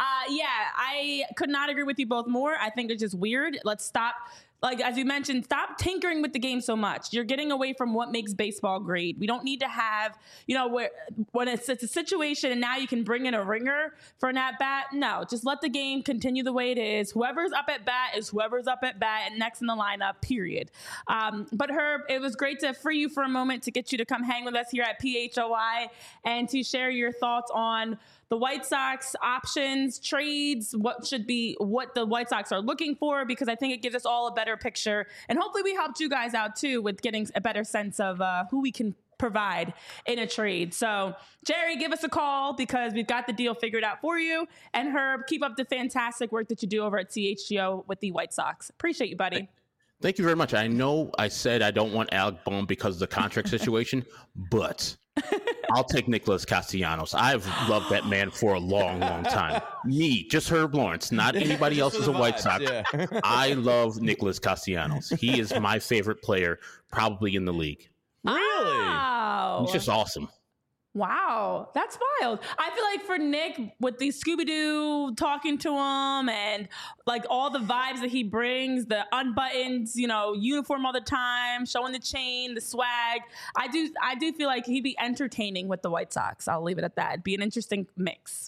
I could not agree with you both more. I think it's just weird. Let's stop. Like, as you mentioned, stop tinkering with the game so much. You're getting away from what makes baseball great. We don't need to have, when it's a situation and now you can bring in a ringer for an at-bat. No, just let the game continue the way it is. Whoever's up at bat is whoever's up at bat and next in the lineup, period. But Herb, it was great to free you for a moment to get you to come hang with us here at PHOI and to share your thoughts on the White Sox options, trades, what the White Sox are looking for, because I think it gives us all a better picture. And hopefully we helped you guys out too with getting a better sense of who we can provide in a trade. So Jerry, give us a call because we've got the deal figured out for you. And Herb, keep up the fantastic work that you do over at CHGO with the White Sox. Appreciate you, buddy. Thank you very much. I know I said I don't want Alec Bohm because of the contract situation, but I'll take Nicholas Castellanos. I've loved that man for a long, long time. Me, just Herb Lawrence, not anybody else is a White Sox. Yeah. I love Nicholas Castellanos. He is my favorite player probably in the league. Really? Wow. He's just awesome. Wow, that's wild. I feel like for Nick, with the Scooby-Doo talking to him and like all the vibes that he brings, the unbuttoned, uniform all the time, showing the chain, the swag, I do feel like he'd be entertaining with the White Sox. I'll leave it at that. It'd be an interesting mix.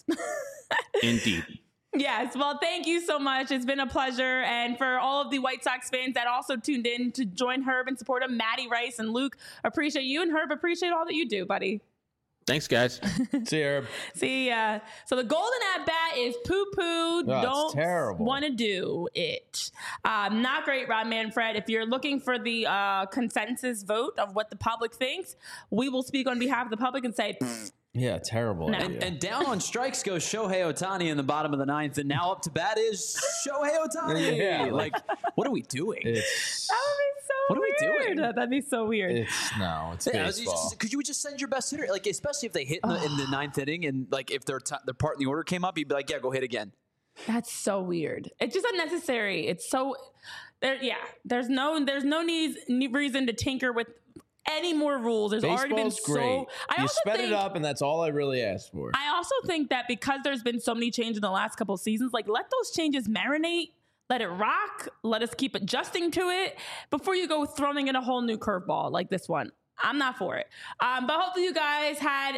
Indeed. Yes. Well, thank you so much. It's been a pleasure. And for all of the White Sox fans that also tuned in to join Herb and support him, Maddie Rice and Luke, appreciate you. And Herb, appreciate all that you do, buddy. Thanks, guys. See you, Herb. See ya. So the Golden at Bat is poo-poo. Don't want to do it. Not great, Rob Manfred. If you're looking for the consensus vote of what the public thinks, we will speak on behalf of the public and say, yeah, terrible. No. And down on strikes goes Shohei Ohtani in the bottom of the ninth, and now up to bat is Shohei Ohtani. Yeah, like, what are we doing? That would be so what weird. Are we doing? That'd be so weird. It's baseball. Because you would just send your best hitter, like especially if they hit in the ninth inning, and like if their part in the order came up, you'd be like, yeah, go hit again. That's so weird. It's just unnecessary. It's so there. Yeah, there's no reason to tinker with any more rules. There's Baseball's already been great. You sped it up, and that's all I really asked for. I also think that because there's been so many changes in the last couple of seasons, like let those changes marinate, let it rock, let us keep adjusting to it before you go throwing in a whole new curveball like this one. I'm not for it. But hopefully you guys had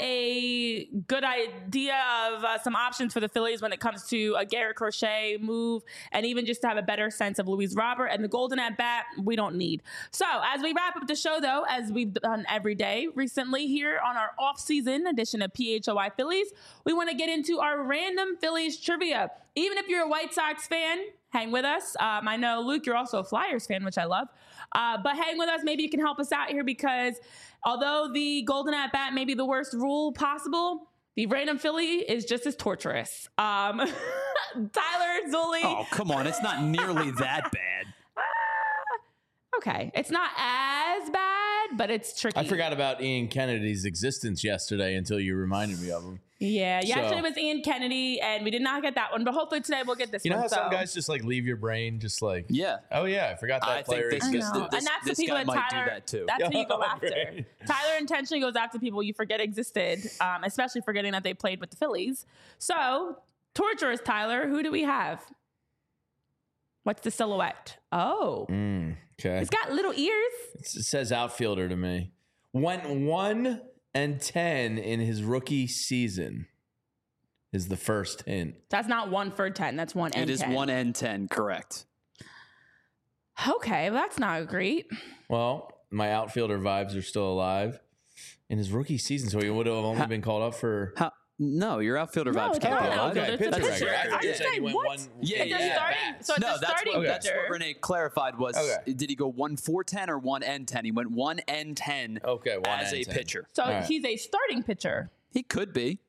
a good idea of some options for the Phillies when it comes to a Garrett Crochet move, and even just to have a better sense of Luis Robert and the Golden at Bat we don't need. So as we wrap up the show, though, as we've done every day recently here on our off-season edition of PHOI Phillies, we want to get into our random Phillies trivia. Even if you're a White Sox fan, hang with us. I know, Luke, you're also a Flyers fan, which I love. But hang with us. Maybe you can help us out here because although the Golden at Bat may be the worst rule possible, the random Philly is just as torturous. Tyler Zulli. Oh, come on. It's not nearly that bad. Okay. It's not as bad, but it's tricky. I forgot about Ian Kennedy's existence yesterday until you reminded me of him. Yeah. Yesterday it was Ian Kennedy, and we did not get that one, but hopefully today we'll get this one. You know how some guys just like leave your brain just like, yeah. Oh, yeah, I forgot that player existed. And that's the people that Tyler, do that too. That's who you go after. Right. Tyler intentionally goes after people you forget existed, especially forgetting that they played with the Phillies. So, torturous Tyler, who do we have? What's the silhouette? Oh. Okay. It's got little ears. It says outfielder to me. Went 1-10 in his rookie season is the first hint. That's not 1 for 10. That's 1 and 10. It is 1 and 10, correct. Okay, well, that's not great. Well, my outfielder vibes are still alive in his rookie season, so he would have only been called up for No, your outfielder No, vibes it's can't not be an allowed. outfielder. Okay, It's a pitcher pitcher. record. I I thought you was said saying, he went what? one. It's a bats. so it's No, a starting that's pitcher. what Renee clarified was, Okay. did he go 1-4-10 or 1-10? He went 1-10 Okay, 1 as a and 10. pitcher. So All right. he's a starting pitcher. He could be.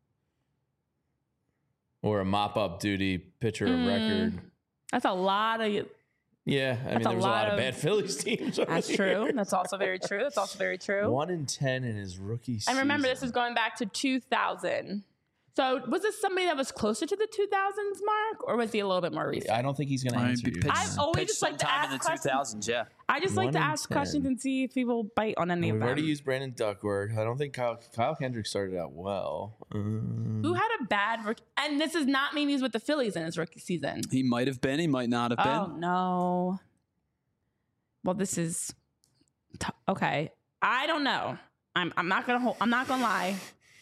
Or a mop-up duty pitcher of record. That's a lot of. Yeah, I mean, a there was a lot lot of of- bad Phillies teams. over That's the true. years. That's also very true. That's also very true. 1 and 10 in his rookie season. And remember, this is going back to 2000. So was this somebody that was closer to the 2000s mark, or was he a little bit more recent? I don't think he's going to answer you. I've always pitched just like to sometime in ask the questions. 2000s, yeah. I just like 1 to and ask 10. questions and see if people bite on any We've of them. already used Brandon Duckworth. I don't think Kyle Kendrick started out well. Who had a bad rookie? And this does not mean he's with the Phillies in his rookie season. He might have been. He might not have Oh been. no. Well, this is okay. I don't know. I'm not gonna lie.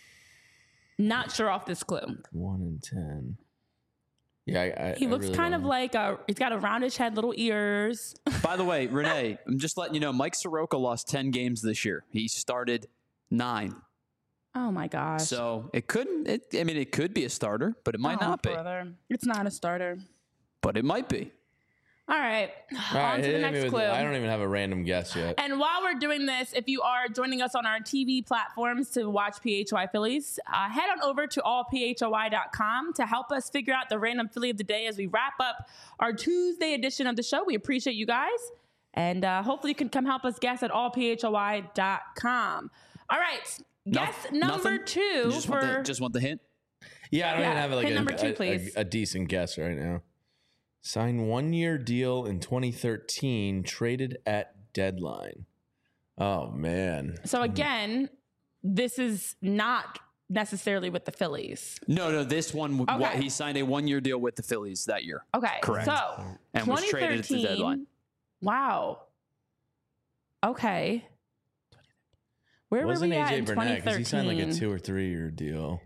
Not sure off this clue. 1 and 10. Yeah, He looks really kind don't of know. like he's got a roundish head, little ears. By the way, Renee, I'm just letting you know, Mike Soroka lost 10 games this year. He started 9. Oh my gosh. So it could be a starter, but it might Oh, not be. brother. It's not a starter. But it might be. All right. All On right, to the hit me next with- clue. I don't even have a random guess yet. And while we're doing this, if you are joining us on our TV platforms to watch PHY Phillies, head on over to allphoy.com to help us figure out the random Philly of the day as we wrap up our Tuesday edition of the show. We appreciate you guys. And hopefully you can come help us guess at allphoy.com. All right. Guess number Nothing? 2 You just for... want the hint? Yeah, I don't Yeah, even have like hit number 2, please. a decent guess right now. Signed 1-year deal in 2013, traded at deadline. Oh, man. So again, this is not necessarily with the Phillies. No, this one, Okay. he signed a 1-year deal with the Phillies that year. Okay. Correct. So And was traded at the 2013. deadline. Wow. Okay. Where Wasn't were we at in AJ Burnett? 2013? Because he signed like a 2 or 3 year deal.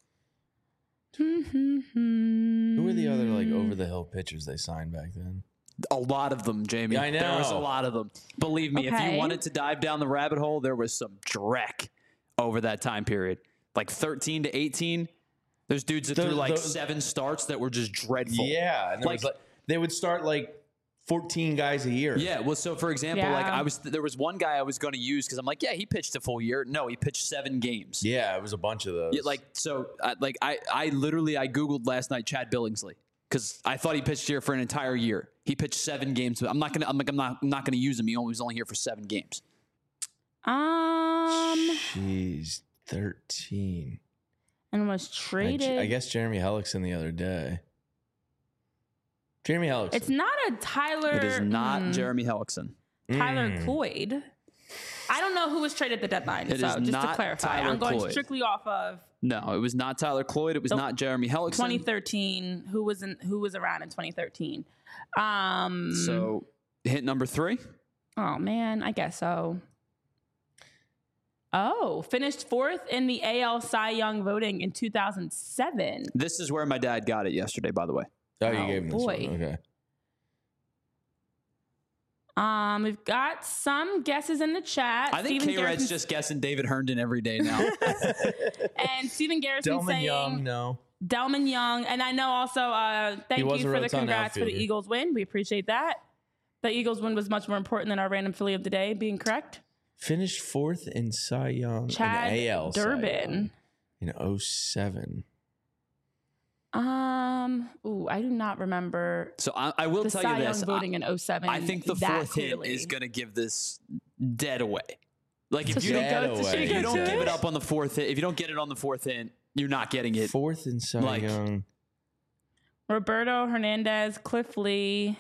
Who Who were the other like over the hill pitchers they signed back then? A lot of them, Jamie. Yeah, I There was a know. lot of them. Believe me, if Okay. you wanted to dive down the rabbit hole, there was some dreck over that time period. Like 13 to 18, there's dudes that threw like those- 7 starts that were just dreadful. Yeah, and there Like- was they would start like 14 guys a year. Yeah, well, so for example, like Yeah. there was one guy I was going to use because I'm like, yeah, he pitched a full year. No, he pitched 7 games. Yeah, it was a bunch of those. Yeah, like so, I googled last night Chad Billingsley because I thought he pitched here for an entire year. He pitched 7 games. I'm not gonna use him. He was only here for 7 games. Jeez, 13. And was traded. I guess Jeremy Hellickson the other day. Jeremy Hellickson. It's not a Tyler. It is not Jeremy Hellickson. Tyler Cloyd. I don't know who was traded at the deadline. It so is just to not clarify, Tyler I'm going Cloyd. strictly off of No, it was not Tyler Cloyd. It was not Jeremy Hellickson. 2013. Who was around in 2013? So hit number 3. Oh man, I guess so. Oh, finished 4th in the AL Cy Young voting in 2007. This is where my dad got it yesterday, by the way. Oh, you Oh, gave him this boy. one. Okay. We've got some guesses in the chat. I think Steven K-Red's Garrison's- just guessing David Herndon every day now. and Stephen Garrison Delman saying Young, no. Delman Young, and I know also thank was you a for the Rotan congrats for the outfielder. Eagles win. We appreciate that. The Eagles win was much more important than our random Philly of the day being correct. Finished 4th in Cy Young Chad in AL Cy Young Durbin. in 07. I do not remember So I will the tell Cy you Young this. voting in 07. I think the that 4th hit clearly. is going to give this dead away. Like if So you should we don't, go- away. should we if go you don't to give it? it up on the 4th hit, if you don't get it on the 4th hit, you're not getting it. 4th in Cy Like- Young. Roberto Hernandez, Cliff Lee.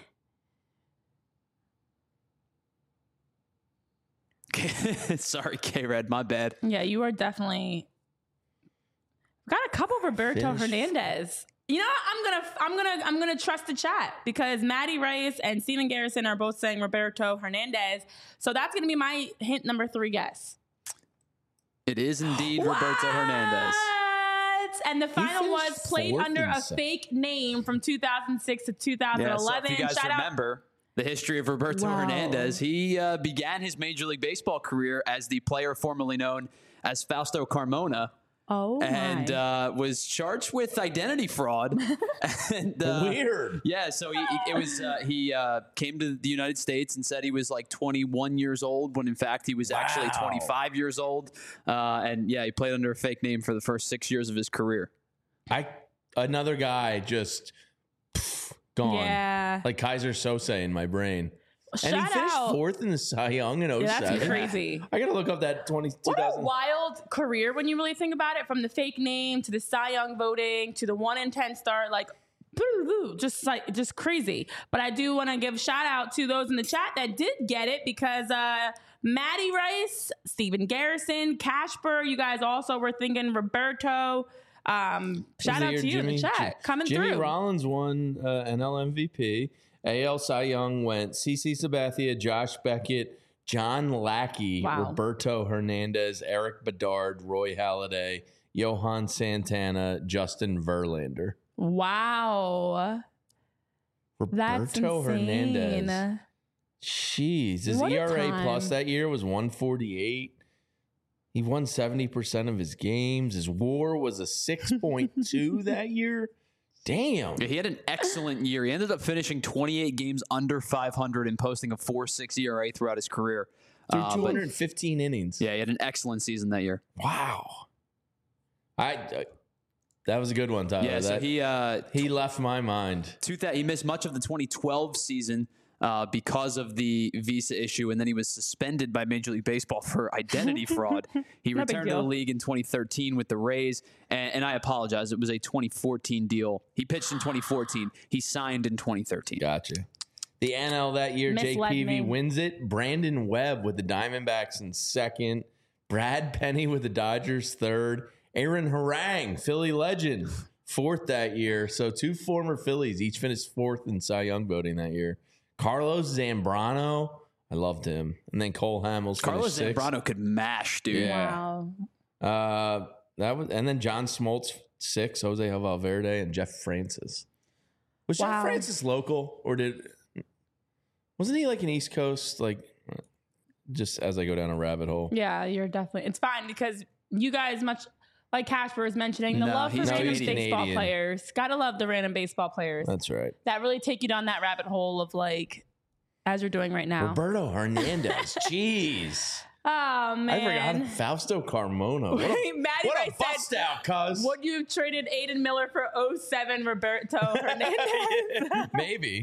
Sorry, K-Red, my bad. Yeah, you are definitely got a couple of Roberto Finished. Hernandez. You know, I'm gonna trust the chat because Maddie Reyes and Steven Garrison are both saying Roberto Hernandez. So that's gonna be my hint number 3 guess. It is indeed Roberto Hernandez. What? And the final was finished played 4th under in a Cy- fake name from 2006 to Yeah, 2011. so if you guys Shout out. remember the history of Roberto Wow. Hernandez, he began his Major League Baseball career as the player formerly known as Fausto Carmona. and was charged with identity fraud. And, weird. Yeah, so he came to the United States and said he was like 21 years old when in fact he was actually 25 years old. And yeah, he played under a fake name for the first 6 years of his career. Another guy just gone. Yeah. Like Kaiser Sose in my brain. And he finished fourth in the Cy Young in 07. Yeah, that's crazy. I got to look up that 2000. What a wild career when you really think about it, from the fake name to the Cy Young voting to the 1 in 10 start, like just crazy. But I do want to give a shout out to those in the chat that did get it, because Maddie Rice, Steven Garrison, Casper, you guys also were thinking Roberto. Shout out to you in the chat. Coming through. Jimmy Rollins won NL MVP. AL Cy Young went CC Sabathia, Josh Beckett, John Lackey, Roberto Hernandez, Eric Bedard, Roy Halladay, Johan Santana, Justin Verlander. Wow. Roberto Hernandez. Jeez. His ERA plus that year was 148. He won 70% of his games. His WAR was a 6.2 that year. Damn. Yeah, he had an excellent year. He ended up finishing 28 games under 500 and posting a 4.6 ERA throughout his career. Through 215 innings. Yeah, he had an excellent season that year. Wow. That was a good one, Tyler. Yeah, so he left my mind. He missed much of the 2012 season because of the visa issue, and then he was suspended by Major League Baseball for identity fraud. He returned to the league in 2013 with the Rays, and I apologize, it was a 2014 deal. He pitched in 2014. He signed in 2013. Gotcha. The NL that year, Jake Peavy wins it. Brandon Webb with the Diamondbacks in second. Brad Penny with the Dodgers third. Aaron Harang, Philly legend, fourth that year. So two former Phillies each finished fourth in Cy Young voting that year. Carlos Zambrano, I loved him. And then Cole Hamels. Carlos Zambrano could mash, dude. Yeah. Wow. And then John Smoltz 6, Jose Valverde, and Jeff Francis. Was Jeff Francis local, or wasn't he like an East Coast, like, just as I go down a rabbit hole? Yeah, you're definitely. It's fine because you guys, much like Casper was mentioning, the love for random baseball players. Gotta love the random baseball players. That's right. That really take you down that rabbit hole of, like, as you're doing right now. Roberto Hernandez. Jeez. Oh, man. I forgot Fausto Carmona. What a bust out, cuz. Would you have traded Aiden Miller for 07 Roberto Hernandez? Maybe.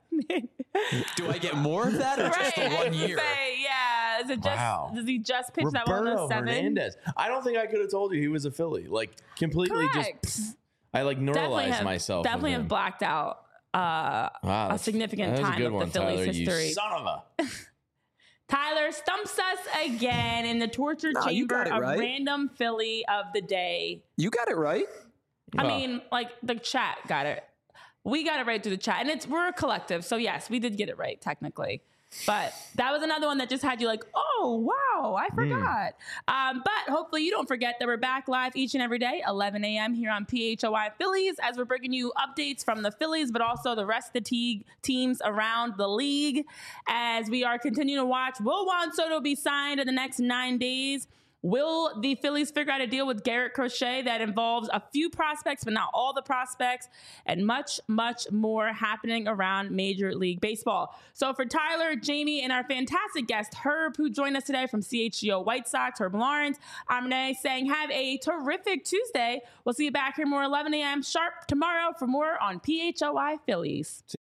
Do I get more of that, or just the 1 year? Is it just, does he just pitch that one of 07? Hernandez. I don't think I could have told you he was a Philly. Like, completely just, I like neuralized myself. Definitely have blacked out a significant time of the Phillies Tyler, history. You son of a. Tyler stumps us again in the torture chamber of random Philly of the day. You got it right. I mean, like, the chat got it. We got it right through the chat. And we're a collective. So, yes, we did get it right, technically. But that was another one that just had you like, oh, wow, I forgot. But hopefully you don't forget that we're back live each and every day, 11 a.m. here on PHOI Phillies, as we're bringing you updates from the Phillies, but also the rest of the teams around the league. As we are continuing to watch, will Juan Soto be signed in the next 9 days? Will the Phillies figure out a deal with Garrett Crochet that involves a few prospects, but not all the prospects, and much, much more happening around Major League Baseball? So for Tyler, Jamie, and our fantastic guest, Herb, who joined us today from CHGO White Sox, Herb Lawrence, I'm Renee saying have a terrific Tuesday. We'll see you back here more 11 a.m. sharp tomorrow for more on PHOI Phillies.